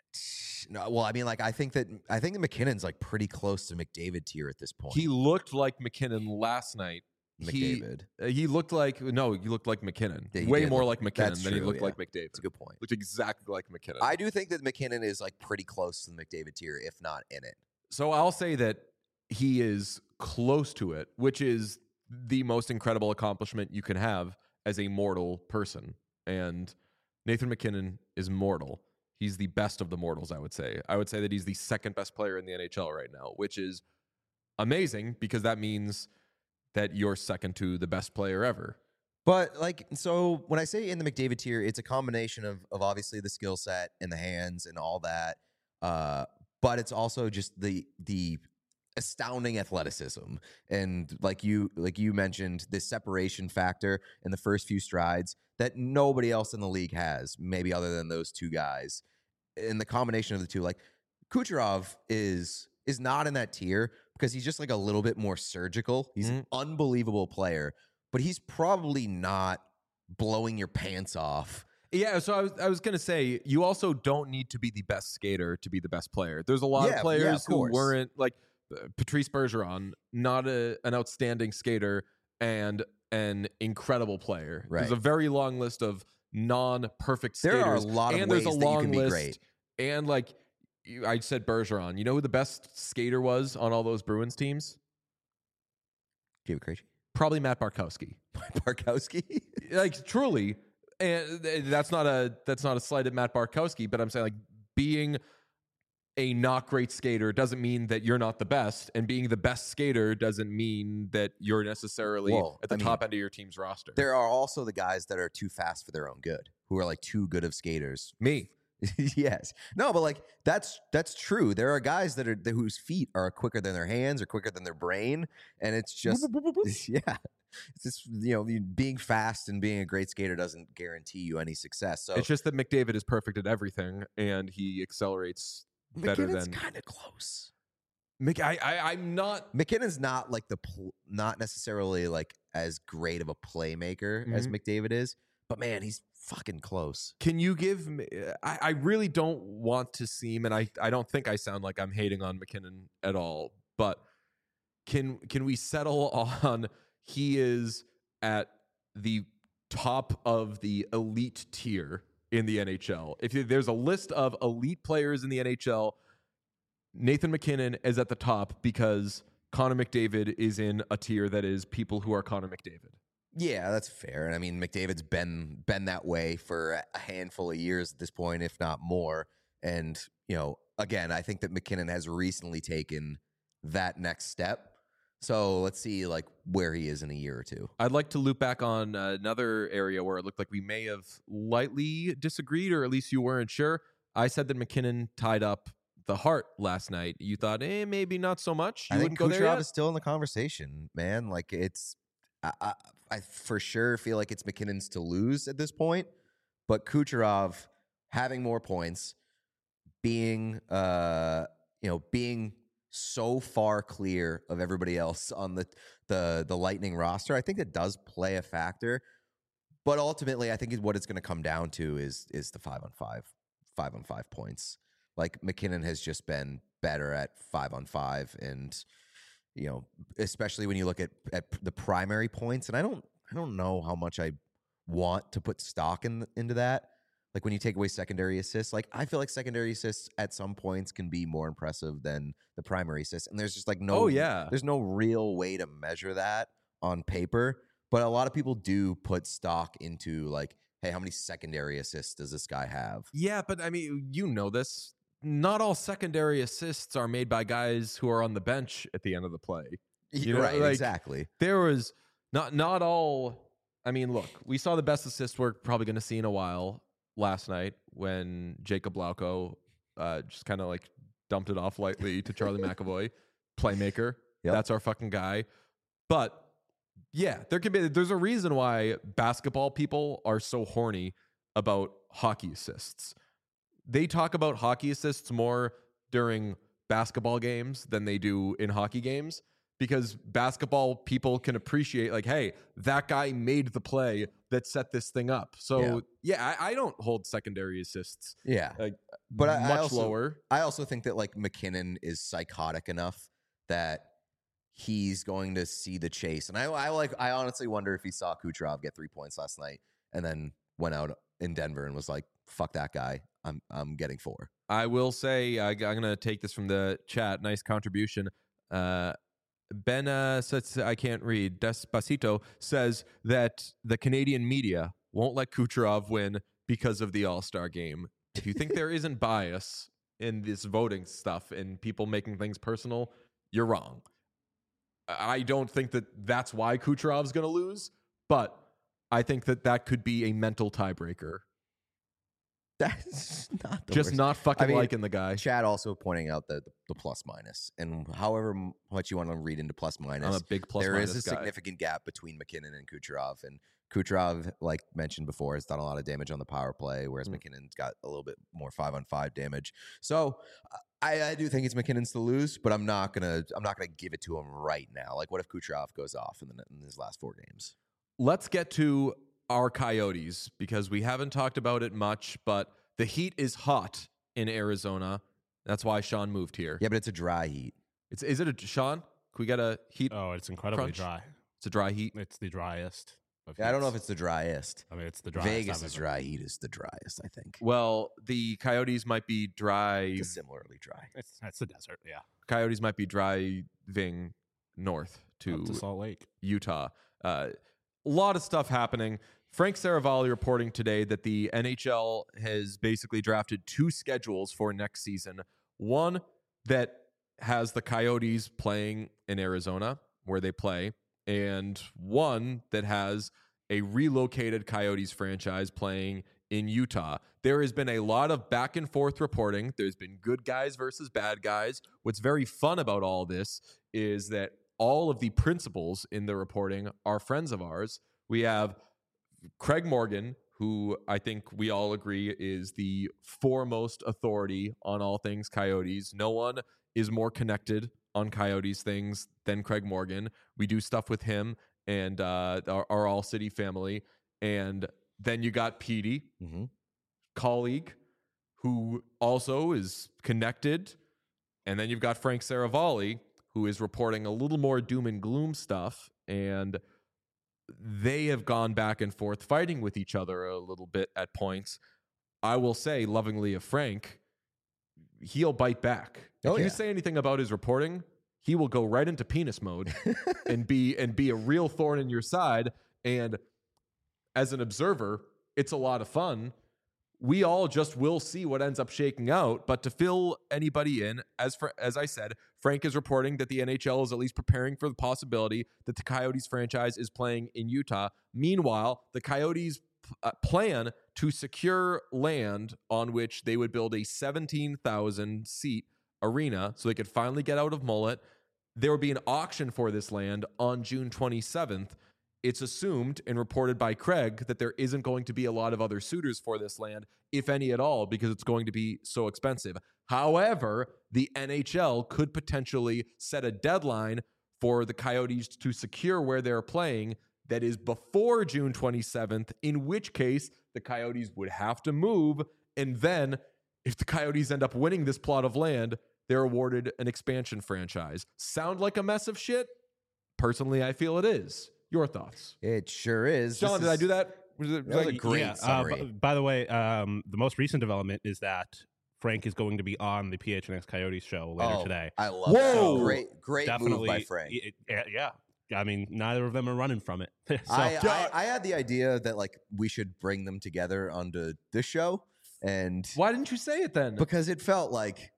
No, well, I mean, like I think that McKinnon's like pretty close to McDavid tier at this point. He looked like McKinnon last night. McDavid. He looked like McKinnon. Yeah, he Way did more look- like that's McKinnon than he true, looked yeah. like McDavid. That's a good point. Looked exactly like McKinnon. I do think that McKinnon is like pretty close to the McDavid tier, if not in it. So I'll say that he is close to it, which is the most incredible accomplishment you can have as a mortal person. And Nathan McKinnon is mortal. He's the best of the mortals, I would say. I would say that he's the second best player in the NHL right now, which is amazing because that means that you're second to the best player ever. But like, so when I say in the McDavid tier, it's a combination of obviously the skill set and the hands and all that. But it's also just the astounding athleticism. And like you mentioned, this separation factor in the first few strides that nobody else in the league has, maybe other than those 2 guys. And the combination of the 2, like Kucherov is not in that tier because he's just like a little bit more surgical. He's an unbelievable player, but he's probably not blowing your pants off. Yeah, so I was gonna say you also don't need to be the best skater to be the best player. There's a lot of players who course. weren't like Patrice Bergeron, not an outstanding skater and an incredible player. Right. There's a very long list of non-perfect skaters. There are a lot of and ways there's a that you long can be list, great. And like I said, Bergeron. You know who the best skater was on all those Bruins teams? David Krejci? Probably Matt Barkowski. Barkowski? Like truly, and that's not a slight at Matt Barkowski, but I'm saying like being a not great skater doesn't mean that you're not the best, and being the best skater doesn't mean that you're necessarily at the top end of your team's roster. There are also the guys that are too fast for their own good, who are like too good of skaters. Me. Yes. No, but like that's true. There are guys that are whose feet are quicker than their hands or quicker than their brain, and it's just yeah. It's just, being fast and being a great skater doesn't guarantee you any success. So it's just that McDavid is perfect at everything, and he accelerates better McKinnon's than kind of close. I'm not. McKinnon's not like not necessarily like as great of a playmaker as McDavid is, but man, he's fucking close. Can you give me? I really don't want to seem, and I don't think I sound like I'm hating on McKinnon at all, but can we settle on he is at the top of the elite tier in the NHL? If there's a list of elite players in the NHL, Nathan McKinnon is at the top because Connor McDavid is in a tier that is people who are Connor McDavid. Yeah, that's fair. And I mean, McDavid's been that way for a handful of years at this point, if not more. And, again, I think that McKinnon has recently taken that next step. So let's see like where he is in a year or two. I'd like to loop back on another area where it looked like we may have lightly disagreed, or at least you weren't sure. I said that McKinnon tied up the Hart last night. You thought, maybe not so much. I think Kucherov is still in the conversation, man. Like it's, I for sure feel like it's McKinnon's to lose at this point, but Kucherov having more points, being so far clear of everybody else on the Lightning roster, I think it does play a factor. But ultimately, I think what it's going to come down to is the 5-on-5 points. Like McKinnon has just been better at 5-on-5, and especially when you look at the primary points. And I don't know how much I want to put stock into that. Like when you take away secondary assists, like I feel like secondary assists at some points can be more impressive than the primary assists. And there's just like there's no real way to measure that on paper. But a lot of people do put stock into like, hey, how many secondary assists does this guy have? Yeah, but I mean, this. Not all secondary assists are made by guys who are on the bench at the end of the play. Right, like, exactly. There was not all. I mean, look, we saw the best assist we're probably going to see in a while last night when Jacob Lauko just kind of like dumped it off lightly to Charlie McAvoy, playmaker. Yep. That's our fucking guy. But yeah, there's a reason why basketball people are so horny about hockey assists. They talk about hockey assists more during basketball games than they do in hockey games, because basketball people can appreciate like, hey, that guy made the play that set this thing up. So yeah, I don't hold secondary assists. Yeah, but much lower. I also think that like McKinnon is psychotic enough that he's going to see the chase. And I honestly wonder if he saw Kucherov get 3 points last night and then went out in Denver and was like, fuck that guy. I'm getting 4. I will say, I'm going to take this from the chat. Nice contribution. Ben says, I can't read. Despacito says that the Canadian media won't let Kucherov win because of the All-Star game. If you think there isn't bias in this voting stuff and people making things personal, you're wrong. I don't think that that's why Kucherov's going to lose, but I think that could be a mental tiebreaker. That's not the just worst. Not fucking liking the guy. Chad also pointing out the plus minus, and however much you want to read into plus minus, I'm a big plus there minus is a guy. significant gap between McKinnon and Kucherov, and Kucherov, like mentioned before, has done a lot of damage on the power play, whereas McKinnon's got a little bit more 5-on-5 damage. So I do think it's McKinnon's to lose, but I'm not gonna give it to him right now. Like, what if Kucherov goes off in his last 4 games? Let's get to our Coyotes, because we haven't talked about it much, but the heat is hot in Arizona. That's why Sean moved here. Yeah, but it's a dry heat. Is it a Sean? Can we get a heat? Oh, it's incredibly crunch? dry. It's a dry heat. It's the driest. Yeah, I don't know if it's the driest. I mean, it's the driest. Vegas' dry heat is the driest, I think. Well, the Coyotes might be dry. It's similarly dry. It's the desert, yeah. Coyotes might be driving north Up to Salt Lake. Utah. A lot of stuff happening. Frank Saravalli reporting today that the NHL has basically drafted 2 schedules for next season. One that has the Coyotes playing in Arizona, where they play, and one that has a relocated Coyotes franchise playing in Utah. There has been a lot of back and forth reporting. There's been good guys versus bad guys. What's very fun about all this is that all of the principals in the reporting are friends of ours. We have Craig Morgan, who I think we all agree is the foremost authority on all things Coyotes. No one is more connected on Coyotes things than Craig Morgan. We do stuff with him and our All City family. And then you got Petey, colleague, who also is connected. And then you've got Frank Saravalli, who is reporting a little more doom and gloom stuff. And they have gone back and forth fighting with each other a little bit at points. I will say, lovingly of Frank, he'll bite back. If you say anything about his reporting, he will go right into penis mode and be a real thorn in your side. And as an observer, it's a lot of fun. We all just will see what ends up shaking out. But to fill anybody in, as I said, Frank is reporting that the NHL is at least preparing for the possibility that the Coyotes franchise is playing in Utah. Meanwhile, the Coyotes plan to secure land on which they would build a 17,000 seat arena so they could finally get out of Mullet. There would be an auction for this land on June 27th. It's assumed and reported by Craig that there isn't going to be a lot of other suitors for this land, if any at all, because it's going to be so expensive. However, the NHL could potentially set a deadline for the Coyotes to secure where they're playing that is before June 27th, in which case the Coyotes would have to move. And then if the Coyotes end up winning this plot of land, they're awarded an expansion franchise. Sound like a mess of shit? Personally, I feel it is. Your thoughts? It sure is. John, did I do that? That was a great summary. By the way, the most recent development is that Frank is going to be on the PHNX Coyotes show later today. I love that. Great Definitely, move by Frank. Yeah. I mean, neither of them are running from it. So, I had the idea that like we should bring them together onto this show, and why didn't you say it then? Because it felt like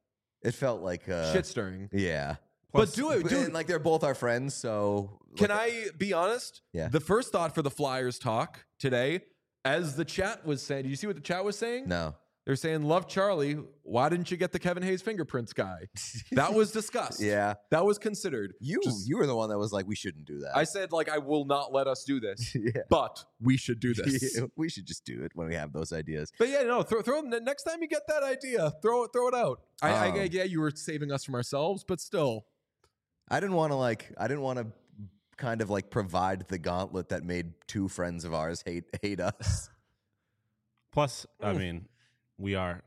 shit stirring. Yeah. But do it, dude. And, like they're both our friends, so can I be honest? Yeah. The first thought for the Flyers talk today, as the chat was saying, did you see what the chat was saying? No. They're saying, "Love Charlie. Why didn't you get the Kevin Hayes fingerprints guy?" That was discussed. Yeah. That was considered. You were the one that was like, we shouldn't do that. I said, like, I will not let us do this, Yeah. but we should do this. We should just do it when we have those ideas. But yeah, no, throw next time you get that idea, throw it out. Yeah, you were saving us from ourselves, but still. I didn't want to kind of like provide the gauntlet that made 2 friends of ours hate us. Plus, I mean, we are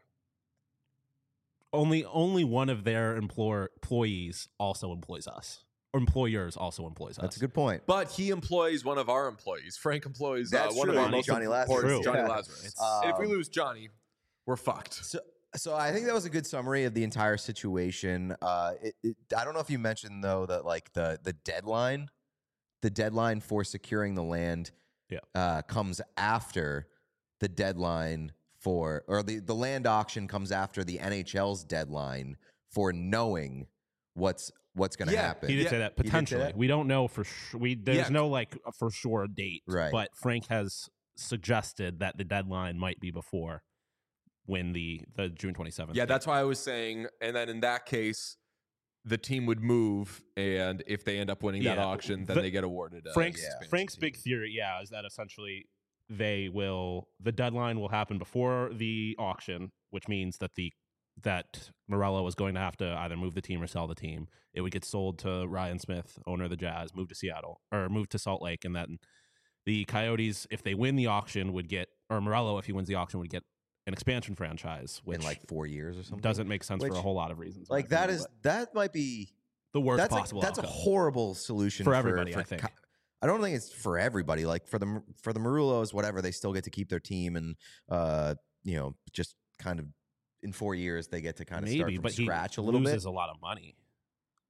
only one of their employees also employs us. Or employers also employs us. That's a good point. But he employs one of our employees. Frank employs That's one true. of our most Johnny important Lazarus. Johnny Yeah. Lazarus. If we lose Johnny, we're fucked. So I think that was a good summary of the entire situation. I don't know if you mentioned though that like the deadline for securing the land comes after the deadline for, or the land auction comes after the NHL's deadline for knowing what's going to happen. He did say that potentially. We don't know for sure. There's no like for sure date, right? But Frank has suggested that the deadline might be before when the June 27th. Yeah, that's why I was saying. And then in that case, the team would move, and if they end up winning that auction, then they get awarded. Frank's big theory, is that essentially the deadline will happen before the auction, which means that Morello is going to have to either move the team or sell the team. It would get sold to Ryan Smith, owner of the Jazz, move to Seattle or move to Salt Lake, and then the Coyotes, if they win the auction, would get, or Morello, if he wins the auction, would get an expansion franchise, which in like 4 years or something. Doesn't make sense for a whole lot of reasons. Like that might be the worst possible. That's a horrible solution for everybody. I think. I don't think it's for everybody. Like for the Marullos, whatever, they still get to keep their team, and just kind of in 4 years they get to kind of start from scratch a little bit. Loses a lot of money.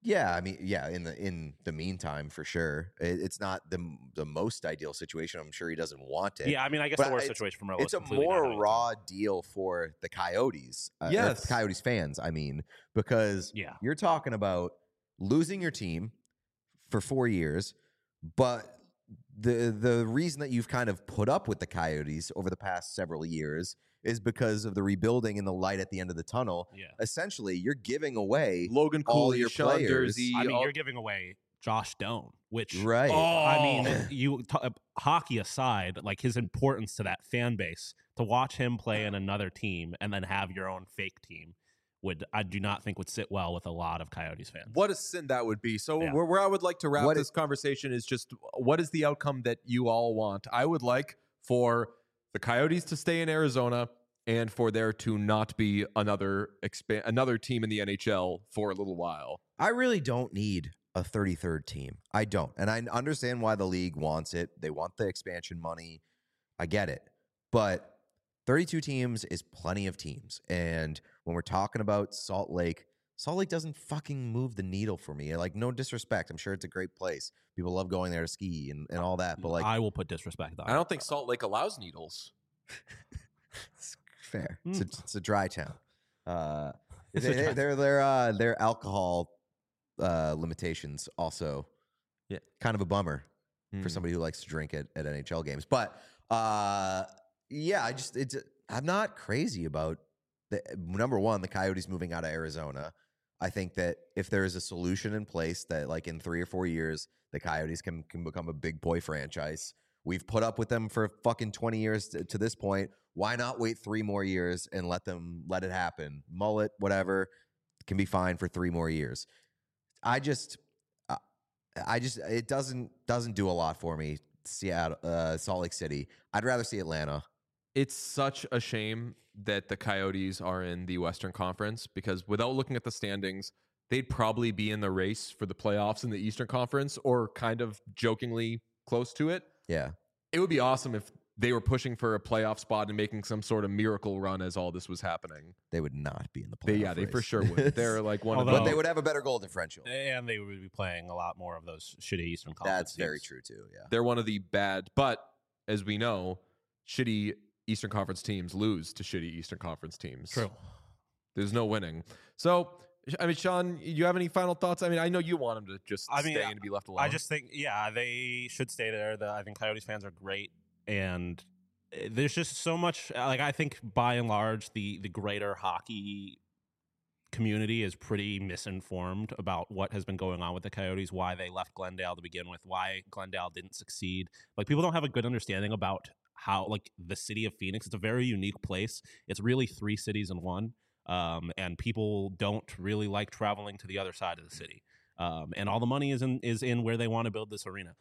Yeah, I mean, yeah. In the meantime, for sure, it's not the most ideal situation. I'm sure he doesn't want it. Yeah, I mean, I guess But the worst situation for Merlo it's is a completely not more having a raw deal for the Coyotes. Or Yes. the Coyotes fans. I mean, because Yeah. you're talking about losing your team for 4 years, but the reason that you've kind of put up with the Coyotes over the past several years is because of the rebuilding and the light at the end of the tunnel. Yeah. Essentially, you're giving away Logan all Cooley, your Sean players. Durzi. I mean, you're giving away Josh Doan, which Right. I mean, hockey aside, like his importance to that fan base, to watch him play in another team and then have your own fake team I do not think would sit well with a lot of Coyotes fans. What a sin that would be. So Yeah. where I would like to wrap What this conversation is just what is the outcome that you all want? I would like for the Coyotes to stay in Arizona and for there to not be another team in the NHL for a little while. I really don't need a 33rd team. I don't. And I understand why the league wants it. They want the expansion money. I get it. But 32 teams is plenty of teams. And when we're talking about Salt Lake doesn't fucking move the needle for me. Like, no disrespect. I'm sure it's a great place. People love going there to ski and all that. But like, I will put disrespect on I don't think Salt Lake allows needles. it's fair. It's a dry town. It's a dry- Their alcohol limitations also, Yeah. kind of a bummer for somebody who likes to drink at NHL games. But yeah, I'm not crazy about number one, the Coyotes moving out of Arizona. I think that if there is a solution in place that, like, in 3 or 4 years, the Coyotes can become a big boy franchise. We've put up with them for fucking 20 years to this point. Why not wait 3 more years and let it happen? Mullet, whatever, can be fine for 3 more years. It doesn't do a lot for me. Seattle, Salt Lake City. I'd rather see Atlanta. It's such a shame that the Coyotes are in the Western Conference because without looking at the standings, they'd probably be in the race for the playoffs in the Eastern Conference or kind of jokingly close to it. Yeah. It would be awesome if they were pushing for a playoff spot and making some sort of miracle run as all this was happening. They would not be in the playoff They for race. sure would. They're like one of Although- But they would have a better goal differential. and they would be playing a lot more of those shitty Eastern Conference That's very teams. true too. Yeah. They're one of the bad, but as we know, shitty Eastern Conference teams lose to shitty Eastern Conference teams. True. There's no winning. So, I mean, Sean, you have any final thoughts? I mean, I know you want them to just stay and be left alone. I just think, yeah, they should stay there. I think Coyotes fans are great, and there's just so much. Like, I think by and large, the greater hockey community is pretty misinformed about what has been going on with the Coyotes, why they left Glendale to begin with, why Glendale didn't succeed. Like, people don't have a good understanding about how, like, the city of Phoenix, it's a very unique place. It's really 3 cities in one. And people don't really like traveling to the other side of the city. And all the money is in where they want to build this arena.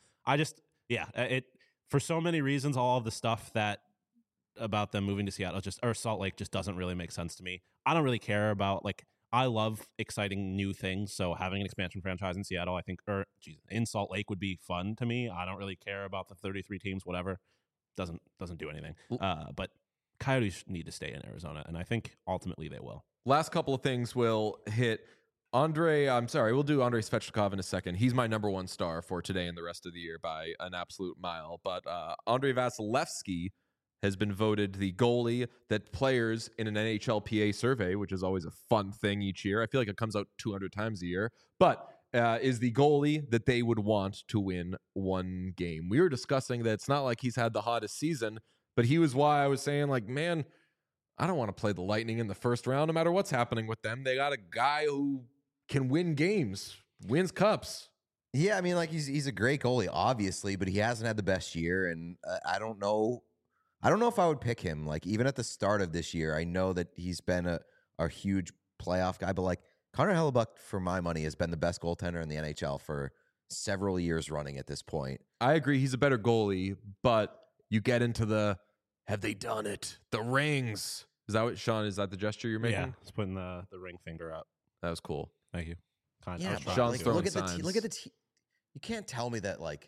For so many reasons, all of the stuff that about them moving to Seattle or Salt Lake just doesn't really make sense to me. I don't really care about, like, I love exciting new things. So having an expansion franchise in Seattle, I think, in Salt Lake would be fun to me. I don't really care about the 33 teams, whatever. Doesn't do anything. But Coyotes need to stay in Arizona, and I think ultimately they will. Last couple of things will hit. We'll do Andrei Svechnikov in a second. He's my number 1 star for today and the rest of the year by an absolute mile. But Andrei Vasilevsky has been voted the goalie that players in an NHLPA survey, which is always a fun thing each year. I feel like it comes out 200 times a year. But is the goalie that they would want to win 1 game. We were discussing that it's not like he's had the hottest season, but he was why I was saying, like, man, I don't want to play the Lightning in the first round no matter what's happening with them. They got a guy who can win games, wins cups. Yeah, I mean, like, he's a great goalie, obviously, but he hasn't had the best year, and I don't know if I would pick him. Like, even at the start of this year, I know that he's been a huge playoff guy, but, like, Connor Hellebuck, for my money, has been the best goaltender in the NHL for several years running at this point. I agree, he's a better goalie, but you get into the have they done it? The rings. Is that what, Sean, is that the gesture you're making? Yeah, it's putting the ring finger up. That was cool. Thank you. Yeah, Sean's but, like, throwing look at signs. the team. You can't tell me that, like,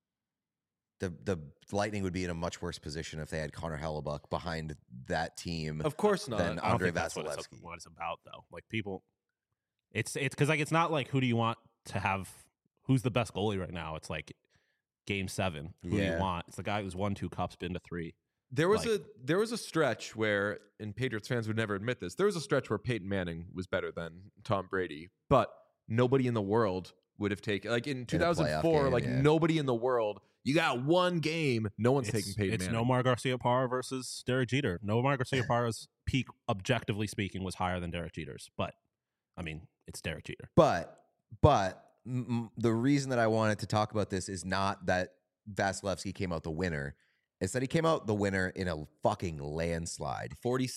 the Lightning would be in a much worse position if they had Connor Hellebuck behind that team Of course not. than I don't Andrei think that's Vasilevsky. what it's about, though. Like, people, It's because like it's not like who do you want to have? Who's the best goalie right now? It's like Game 7. Who do you want? It's the guy who's won 2 cups, been to 3. There was a stretch where, and Patriots fans would never admit this, there was a stretch where Peyton Manning was better than Tom Brady, but nobody in the world would have taken, like in 2004, nobody in the world, you got one game, no one's taking Peyton Manning. It's Nomar Garcia-Parra versus Derek Jeter. Nomar Garcia-Parra's peak, objectively speaking, was higher than Derek Jeter's, but I mean, it's Derek Jeter. But the reason that I wanted to talk about this is not that Vasilevsky came out the winner. It's that he came out the winner in a fucking landslide.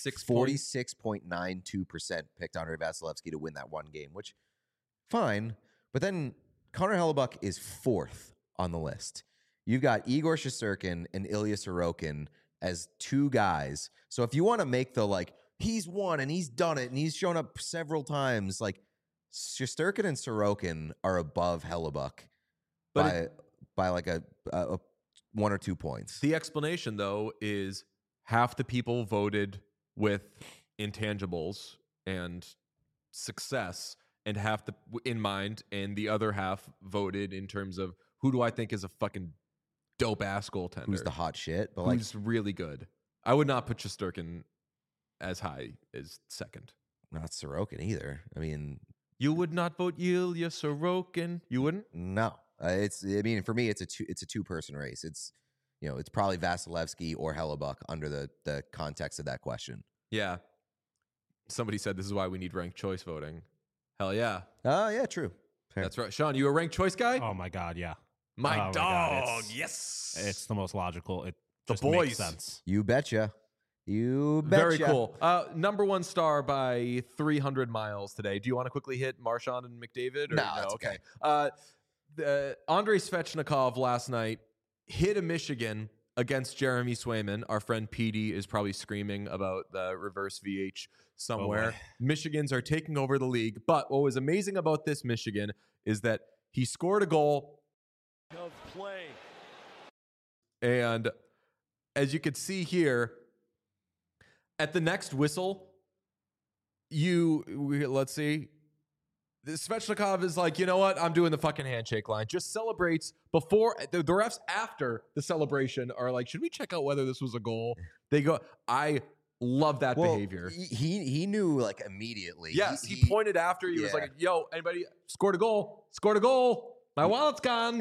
46.92% picked Andre Vasilevsky to win that one game, which, fine. But then Connor Hellebuyck is 4th on the list. You've got Igor Shesterkin and Ilya Sorokin as 2 guys. So if you want to make the, like, he's won and he's done it and he's shown up several times, like, Shesterkin and Sorokin are above Hellebuyck by like a 1 or 2 points. The explanation, though, is half the people voted with intangibles and success and half in mind, and the other half voted in terms of who do I think is a fucking dope-ass goaltender. Who's the hot shit? But who's really good. I would not put Shesterkin as high as 2nd. Not Sorokin either. I mean... You would not vote Ilya Sorokin? You wouldn't? No. I mean, for me, it's a 2-person race. It's, it's probably Vasilevsky or Hellebuyck under the context of that question. Yeah. Somebody said this is why we need ranked choice voting. Hell yeah. Oh, yeah, true. Fair. That's right. Sean, you a ranked choice guy? Oh my God, yeah. My Oh dog, God, yes. It's the most logical. It The just boys. makes sense. You betcha. You betcha. Very cool. Number 1 star by 300 miles today. Do you want to quickly hit Marchand and McDavid? No, it's okay. Andrei Svechnikov last night hit a Michigan against Jeremy Swayman. Our friend PD is probably screaming about the reverse VH somewhere. Michigans are taking over the league. But what was amazing about this Michigan is that he scored a goal. Of play. And as you could see here, at the next whistle, let's see. Svechnikov is like, you know what? I'm doing the fucking handshake line. Just celebrates before the refs after the celebration are like, should we check out whether this was a goal? They go, I love that behavior. He knew like immediately. Yes, he pointed after. He was like, yo, anybody scored a goal? Scored a goal. My wallet's gone.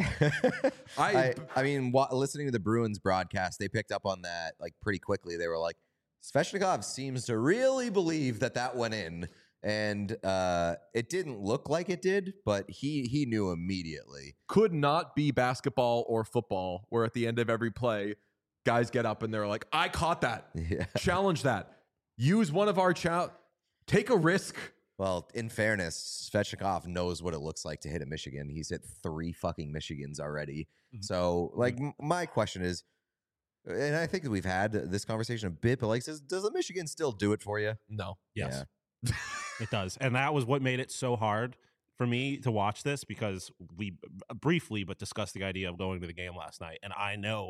I mean, listening to the Bruins broadcast, they picked up on that like pretty quickly. They were like, Svechnikov seems to really believe that went in. And it didn't look like it did, but he knew immediately. Could not be basketball or football, where at the end of every play, guys get up and they're like, I caught that. Yeah. Challenge that. Use one of our take a risk. Well, in fairness, Svechnikov knows what it looks like to hit a Michigan. He's hit 3 fucking Michigans already. Mm-hmm. So, like, my question is, and I think that we've had this conversation a bit, but like, does a Michigan still do it for you? No. Yes. Yeah. It does. And that was what made it so hard for me to watch this, because we briefly but discussed the idea of going to the game last night. And I know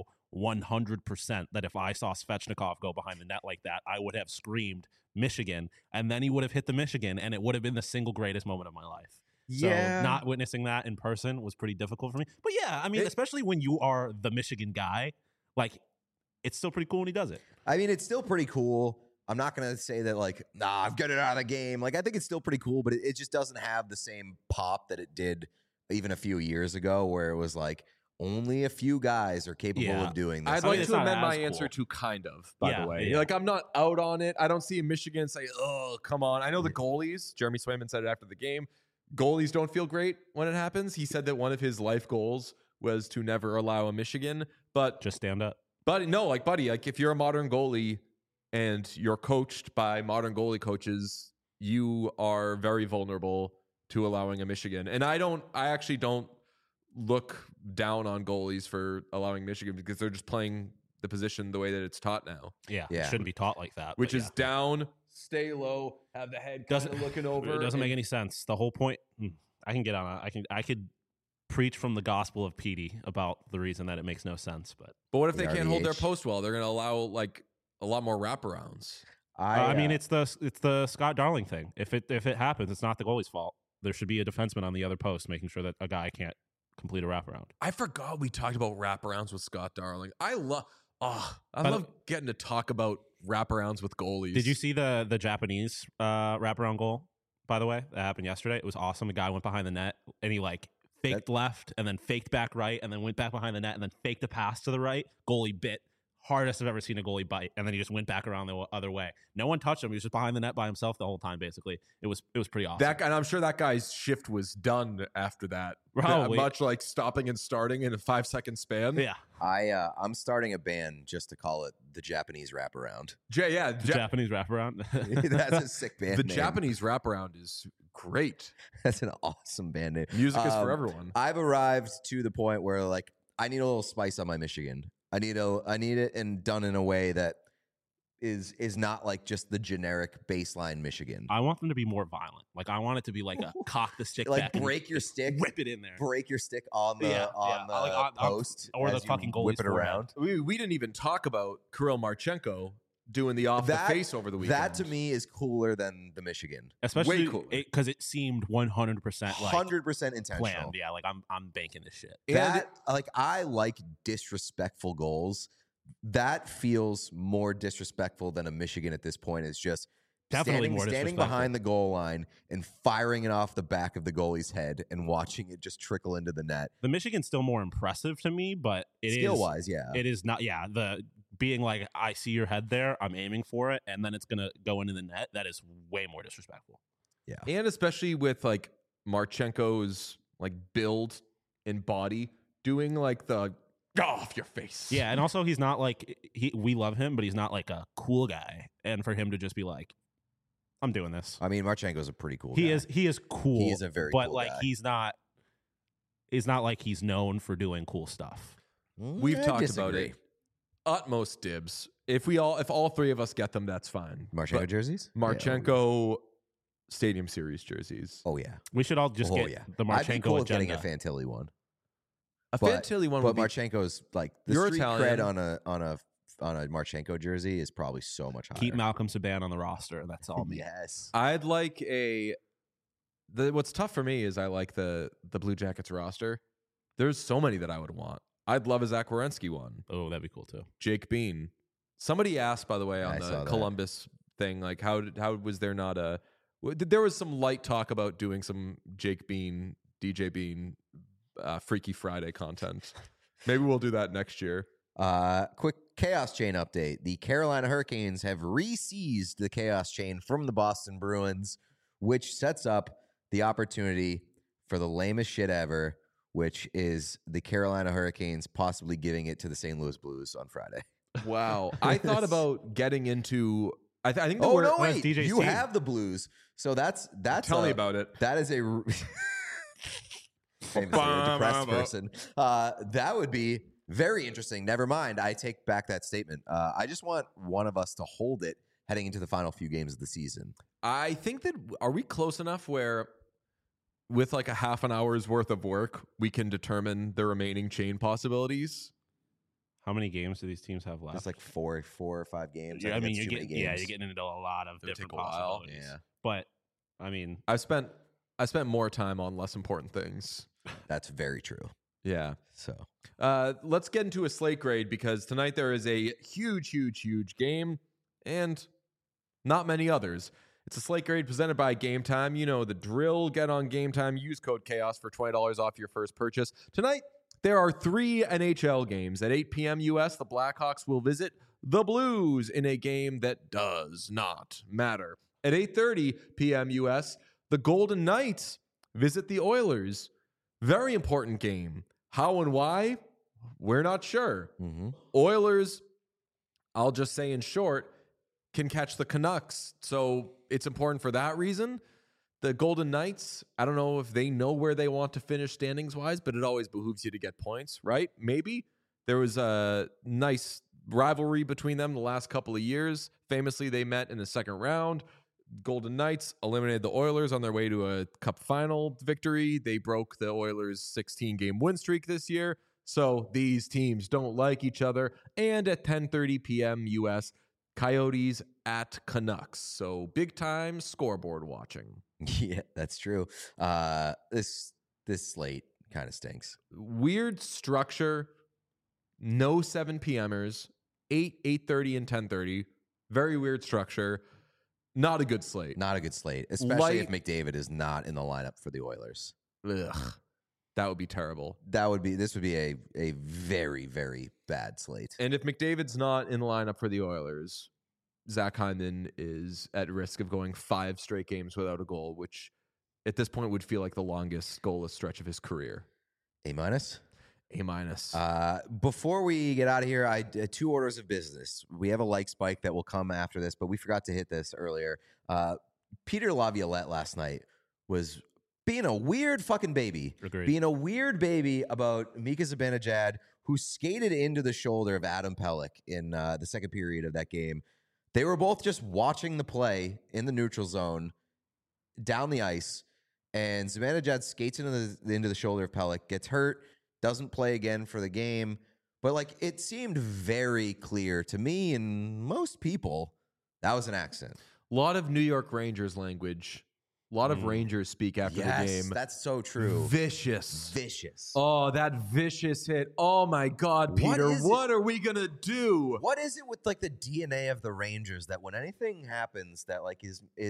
100% that if I saw Svechnikov go behind the net like that, I would have screamed Michigan, and then he would have hit the Michigan, and it would have been the single greatest moment of my life. Yeah. So not witnessing that in person was pretty difficult for me. But yeah, I mean, especially when you are the Michigan guy, like, it's still pretty cool when he does it. I mean, it's still pretty cool. I'm not going to say that, like, I've got it out of the game. Like, I think it's still pretty cool, but it just doesn't have the same pop that it did even a few years ago, where it was like, only a few guys are capable of doing this. I'd like to amend my answer to kind of, by the way. Yeah. Like, I'm not out on it. I don't see Michigan say, oh, come on. I know the goalies. Jeremy Swayman said it after the game. Goalies don't feel great when it happens. He said that one of his life goals was to never allow a Michigan, but just stand up. But no, like, buddy, like, if you're a modern goalie and you're coached by modern goalie coaches, you are very vulnerable to allowing a Michigan. And I actually don't look down on goalies for allowing Michigan, because they're just playing the position the way that it's taught now. Yeah. It shouldn't be taught like that. Which is down, stay low, have the head kind of looking over. It doesn't make any sense. The whole point, I can get on it. I could preach from the gospel of PD about the reason that it makes no sense. But what if they can't hold their post well? They're going to allow like a lot more wraparounds. I mean, it's the Scott Darling thing. If it happens, it's not the goalie's fault. there should be a defenseman on the other post making sure that a guy can't complete a wraparound. I forgot we talked about wraparounds with Scott Darling. I love getting to talk about wraparounds with goalies. Did you see the Japanese wraparound goal, by the way? That happened yesterday. It was awesome. The guy went behind the net and he faked left and then faked back right and then went back behind the net and then faked a pass to the right. Goalie bit. Hardest I've ever seen a goalie bite, and then he just went back around the other way. No one touched him. He was just behind the net by himself the whole time. Basically, it was pretty awesome. And I'm sure that guy's shift was done after that. Probably. Much like stopping and starting in a 5-second span. Yeah, I'm starting a band just to call it the Japanese wraparound. Japanese wraparound. That's a sick band. The name. Japanese wraparound is great. That's an awesome band name. Music is for everyone. I've arrived to the point where I need a little spice on my Michigan. I need it and done in a way that is not like just the generic baseline Michigan. I want them to be more violent. I want it to be like a cock the stick back, break your stick, whip it in there, break your stick on the post, or the fucking goalie's whip it around. We didn't even talk about Kirill Marchenko doing the off the face over the weekend. That to me is cooler than the Michigan, especially way cooler because it seemed 100% 100% intentional. Planned. Yeah, I'm banking this shit. That I like disrespectful goals. That feels more disrespectful than a Michigan at this point. Is just definitely standing behind the goal line and firing it off the back of the goalie's head and watching it just trickle into the net. The Michigan's still more impressive to me, but skill-wise, yeah. It is not, the being like, I see your head there, I'm aiming for it, and then it's going to go into the net. That is way more disrespectful. Yeah. And especially with Marchenko's build and body doing the off your face. Yeah, and also he's not we love him, but he's not a cool guy. And for him to just be like, I'm doing this. I mean, Marchenko's a pretty cool guy. He is cool. He is a very cool guy. But it's not like he's known for doing cool stuff. We've talked about it. Utmost dibs. If all three of us get them, that's fine. Marchenko jerseys? Marchenko Stadium Series jerseys. Oh yeah. We should all just get the Marchenko I'd be cool with agenda. Getting a Fantilli one. Fantilli one would be... Marchenko's the street cred on a Marchenko jersey is probably so much higher. Keep Malcolm Subban on the roster, and that's all me. Yes. I'd like what's tough for me is I like the Blue Jackets roster. There's so many that I would want. I'd love a Zach Werenski one. Oh, that'd be cool too. Jake Bean. Somebody asked, by the way, on the Columbus thing, how was there not a... There was some light talk about doing some Jake Bean, DJ Bean, Freaky Friday content. Maybe we'll do that next year. Quick Chaos Chain update. The Carolina Hurricanes have re-seized the Chaos Chain from the Boston Bruins, which sets up the opportunity for the lamest shit ever, which is the Carolina Hurricanes possibly giving it to the St. Louis Blues on Friday. Wow. I thought about getting into... I think wait. You have the Blues. So that's Tell me about it. That is a... Famously a depressed person. That would be very interesting. Never mind. I take back that statement. I just want one of us to hold it heading into the final few games of the season. I think that... Are we close enough where... with a half an hour's worth of work, we can determine the remaining chain possibilities? How many games do these teams have left? It's 4 or 5 games. Yeah, you're getting into a lot of different possibilities. Yeah. But I mean, I spent more time on less important things. That's very true. Yeah. So let's get into a slate grade because tonight there is a huge game and not many others. It's a slate grade presented by Game Time. You know the drill. Get on Game Time. Use code CHAOS for $20 off your first purchase. Tonight, there are 3 NHL games. At 8 p.m. U.S., the Blackhawks will visit the Blues in a game that does not matter. At 8:30 p.m. U.S., the Golden Knights visit the Oilers. Very important game. How and why? We're not sure. Mm-hmm. Oilers, I'll just say in short, can catch the Canucks. So it's important for that reason. The Golden Knights, I don't know if they know where they want to finish standings-wise, but it always behooves you to get points, right? Maybe. There was a nice rivalry between them the last couple of years. Famously, they met in the second round. Golden Knights eliminated the Oilers on their way to a Cup final victory. They broke the Oilers' 16-game win streak this year. So these teams don't like each other. And at 10:30 p.m. U.S., Coyotes at Canucks. So big time scoreboard watching. Yeah, that's true. This slate kind of stinks. Weird structure. No 7 p.m.ers. 8, 8:30, and 10:30. Very weird structure. Not a good slate. Not a good slate, especially if McDavid is not in the lineup for the Oilers. Ugh. That would be terrible. This would be a very, very bad slate. And if McDavid's not in the lineup for the Oilers, Zach Hyman is at risk of going 5 straight games without a goal, which at this point would feel like the longest goalless stretch of his career. A minus? A minus. Before we get out of here, I 2 orders of business. We have a like spike that will come after this, but we forgot to hit this earlier. Peter Laviolette last night was being a weird fucking baby. Agreed. Being a weird baby about Mika Zibanejad, who skated into the shoulder of Adam Pelech in the second period of that game. They were both just watching the play in the neutral zone down the ice, and Zibanejad skates into the shoulder of Pelech, gets hurt, doesn't play again for the game. But like, it seemed very clear to me and most people that was an accident. A lot of New York Rangers language. A lot of Rangers speak after the game. That's so true. Vicious. Oh, that vicious hit. Oh my God, Peter. What are we gonna do? What is it with like the DNA of the Rangers that when anything happens that like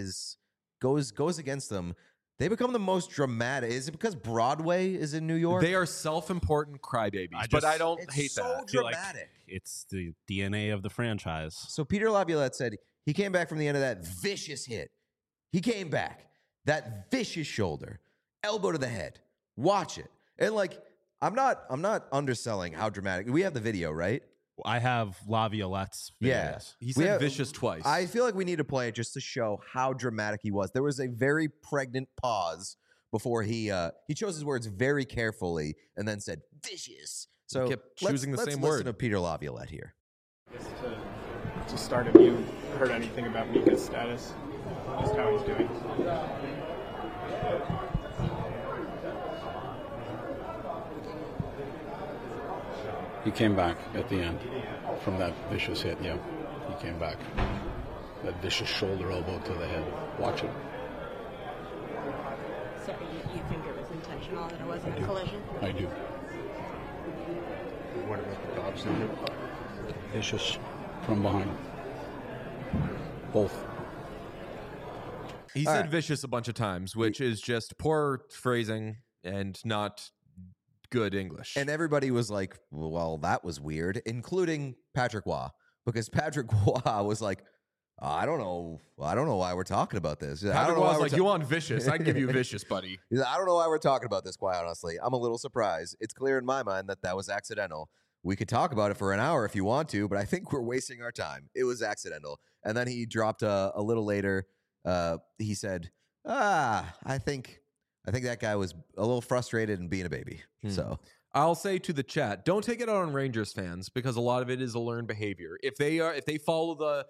goes against them, they become the most dramatic? Is it because Broadway is in New York? They are self-important crybabies, but I don't hate so that. Dramatic. It's the DNA of the franchise. So Peter Laviolette said he came back from the end of that vicious hit. He came back. That vicious shoulder, elbow to the head. Watch it. And like, I'm not underselling how dramatic. We have the video, right? I have Laviolette's videos. Yeah. He said vicious twice. I feel like we need to play it just to show how dramatic he was. There was a very pregnant pause before he chose his words very carefully and then said vicious. So he kept choosing the same word. word. Listen to Peter Laviolette here. To start, have you heard anything about Mika's status? Just how he's doing? He came back at the end from that vicious hit, yeah. He came back. That vicious shoulder elbow to the head. Watch it. So you think it was intentional, that it wasn't a collision? I do. What about the Dobbs number? Vicious from behind. Both. He said vicious a bunch of times, which is just poor phrasing and not good English. And everybody was like, well, that was weird, including Patrick Waugh, because Patrick Waugh was like, I don't know why we're talking about this. Patrick Waugh's like, you want vicious? I can give you vicious, buddy. I don't know why we're talking about this, quite honestly. I'm a little surprised. It's clear in my mind that was accidental. We could talk about it for an hour if you want to, but I think we're wasting our time. It was accidental. And then he dropped a little later. He said, I think that guy was a little frustrated and being a baby. So I'll say to the chat, don't take it out on Rangers fans because a lot of it is a learned behavior. If they follow the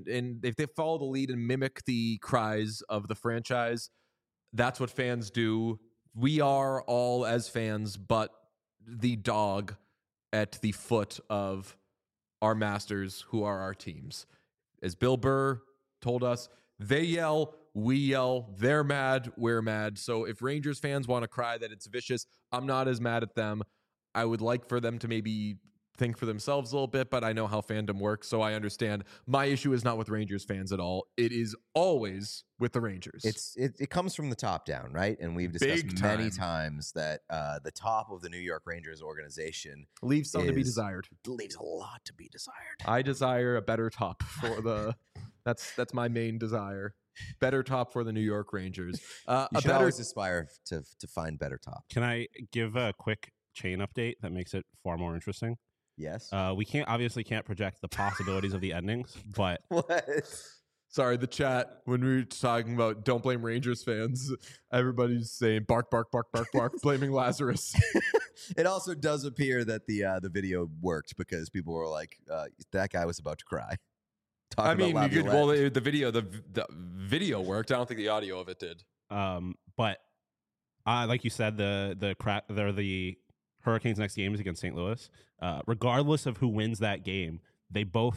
lead and mimic the cries of the franchise, that's what fans do. We are all, as fans, but the dog at the foot of our masters who are our teams. As Bill Burr told us, they yell, we yell, they're mad, we're mad. So if Rangers fans want to cry that it's vicious, I'm not as mad at them. I would like for them to maybe think for themselves a little bit, but I know how fandom works, so I understand. My issue is not with Rangers fans at all. It is always with the Rangers. It comes from the top down, right? And we've discussed many times that the top of the New York Rangers organization leaves some to be desired. Leaves a lot to be desired. I desire a better top for the. That's my main desire. Better top for the New York Rangers. You should always aspire to find better top. Can I give a quick chain update that makes it far more interesting? Yes. We can't project the possibilities of the endings, but what? Sorry, the chat, when we were talking about don't blame Rangers fans, everybody's saying bark, bark, bark, bark, bark, blaming Lazarus. It also does appear that the video worked because people were like, that guy was about to cry. I mean, the video worked. I don't think the audio of it did. But like you said, the Hurricanes' next game is against St. Louis. Regardless of who wins that game, they both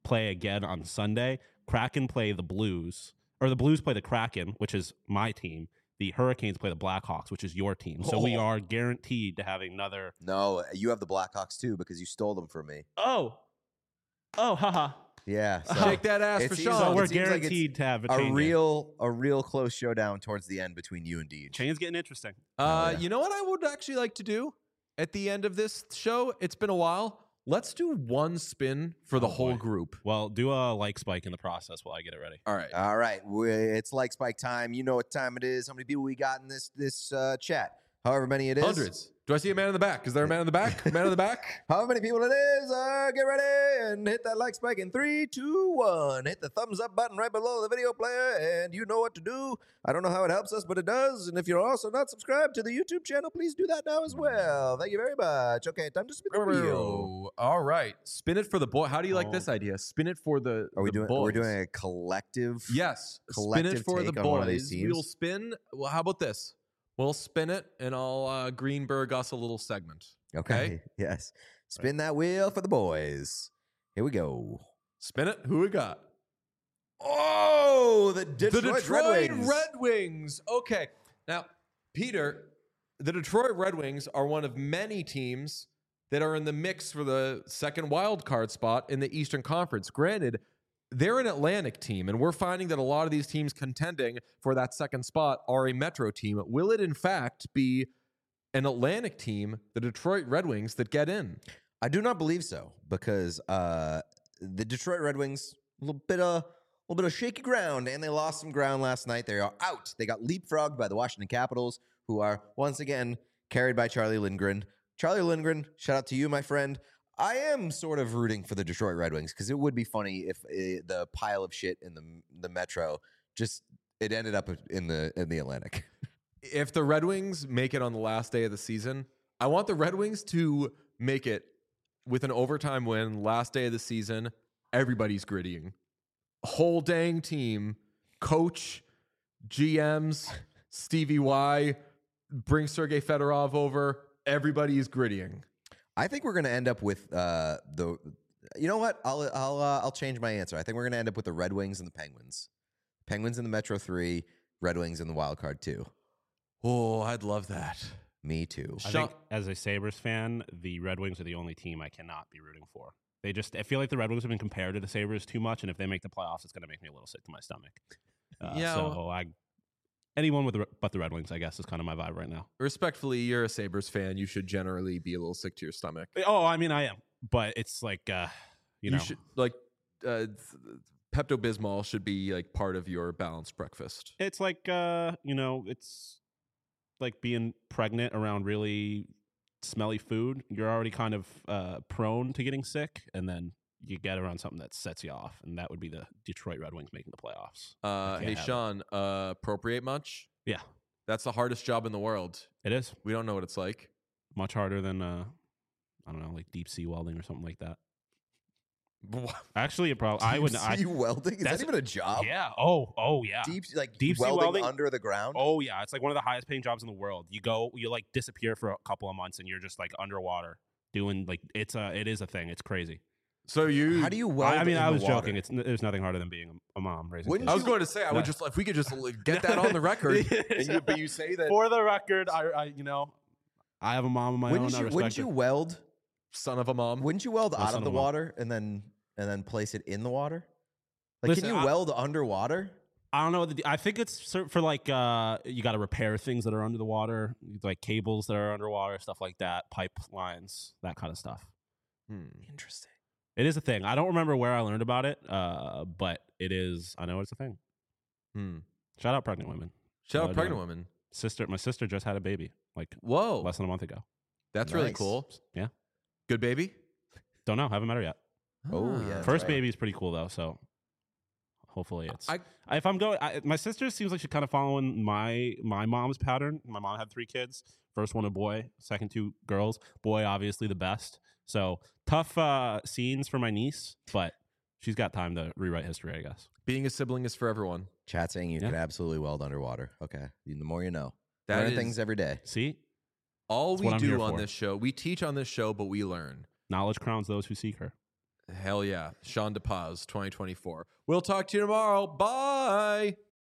play again on Sunday. Kraken play the Blues, or the Blues play the Kraken, which is my team. The Hurricanes play the Blackhawks, which is your team. So we are guaranteed to have another. No, you have the Blackhawks too because you stole them from me. Oh, haha. Yeah, so Shake that ass it for seems- Sean. So it we're seems like it's guaranteed to have a a chain game. real close showdown towards the end between you and Deej. Chain's getting interesting. yeah. You know what I would actually like to do at the end of this show? It's been a while. Let's do one spin for the whole boy. group. Well, do a like spike in the process while I get it ready. All right. All right, it's like Spike time. You know what time it is. How many people we got in this chat? However many it is. Hundreds. Do I see a man in the back? Is there a man in the back? Man in the back? However many people it is, get ready and hit that like spike in 3, 2, 1. Hit the thumbs up button right below the video player, and you know what to do. I don't know how it helps us, but it does. And if you're also not subscribed to the YouTube channel, please do that now as well. Thank you very much. Okay, time to spin the wheel. All right. Spin it for the boy. How do you like this idea? Spin it for the Are we the doing? boys. We're doing a collective. Yes. collective Spin it for the take on one of these boys. teams? We'll spin. Well, how about this? We'll spin it, and I'll Greenberg us a little segment. Okay. Yes. Spin that wheel for the boys. Here we go. Spin it. Who we got? Oh, the Detroit Red Wings. Red Wings. Okay. Now, Peter, the Detroit Red Wings are one of many teams that are in the mix for the second wild card spot in the Eastern Conference. Granted, they're an Atlantic team, and we're finding that a lot of these teams contending for that second spot are a Metro team. Will it, in fact, be an Atlantic team, the Detroit Red Wings, that get in? I do not believe so because the Detroit Red Wings a little bit of shaky ground, and they lost some ground last night. They are out. They got leapfrogged by the Washington Capitals, who are once again carried by Charlie Lindgren. Charlie Lindgren, shout out to you, my friend. I am sort of rooting for the Detroit Red Wings because it would be funny if the pile of shit in the Metro just it ended up in the Atlantic. If the Red Wings make it on the last day of the season, I want the Red Wings to make it with an overtime win, last day of the season. Everybody's grittying. Whole dang team, coach, GMs, Stevie Y, bring Sergei Fedorov over. Everybody is grittying. I think we're going to end up with the. You know what? I'll change my answer. I think we're going to end up with the Red Wings and the Penguins. Penguins in the Metro 3, Red Wings in the Wild Card 2. Oh, I'd love that. Me too. I think as a Sabres fan, the Red Wings are the only team I cannot be rooting for. I feel like the Red Wings have been compared to the Sabres too much, and if they make the playoffs, it's going to make me a little sick to my stomach. Anyone but the Red Wings, I guess, is kind of my vibe right now. Respectfully, you're a Sabres fan. You should generally be a little sick to your stomach. Oh, I mean, I am, but it's like, you should Pepto-Bismol should be like part of your balanced breakfast. It's like, it's like being pregnant around really smelly food. You're already kind of prone to getting sick, and then you get around something that sets you off, and that would be the Detroit Red Wings making the playoffs. Hey, Sean, appropriate much? Yeah. That's the hardest job in the world. It is. We don't know what it's like. Much harder than, I don't know, like deep sea welding or something like that. Actually, it probably I would. Deep sea welding? Is that even a job? Yeah. Oh, yeah. Deep sea welding under the ground. Oh yeah, it's like one of the highest paying jobs in the world. You like disappear for a couple of months and you're just like underwater doing like it is a thing. It's crazy. So how do you weld? I mean, I was water? joking. There's nothing harder than being a mom raising. I was going to say, I would just if we could just get that on the record. But you say that for the record. I have a mom of my own. Wouldn't you weld, son of a mom? Wouldn't you weld out of the water and then place it in the water? Like, can you weld underwater? I don't know. I think it's for like you got to repair things that are under the water, like cables that are underwater, stuff like that, pipelines, that kind of stuff. Interesting. It is a thing. I don't remember where I learned about it, but it is. I know it's a thing. Shout out pregnant women. Shout out pregnant women. My sister just had a baby. Like less than a month ago. That's really cool. Yeah. Good baby. Don't know. Haven't met her yet. Oh yeah. First baby is pretty cool though. So hopefully it's. If I'm going, my sister seems like she's kind of following my mom's pattern. My mom had 3 kids. First one a boy, second 2 girls. Boy, obviously the best. So tough scenes for my niece, but she's got time to rewrite history, I guess. Being a sibling is for everyone. Chat saying you could absolutely weld underwater. Okay, the more you know. That Learn is, things every day. See, all we do on this show, we teach on this show, but we learn. Knowledge crowns those who seek her. Hell yeah. Sean DePaz, 2024. We'll talk to you tomorrow. Bye.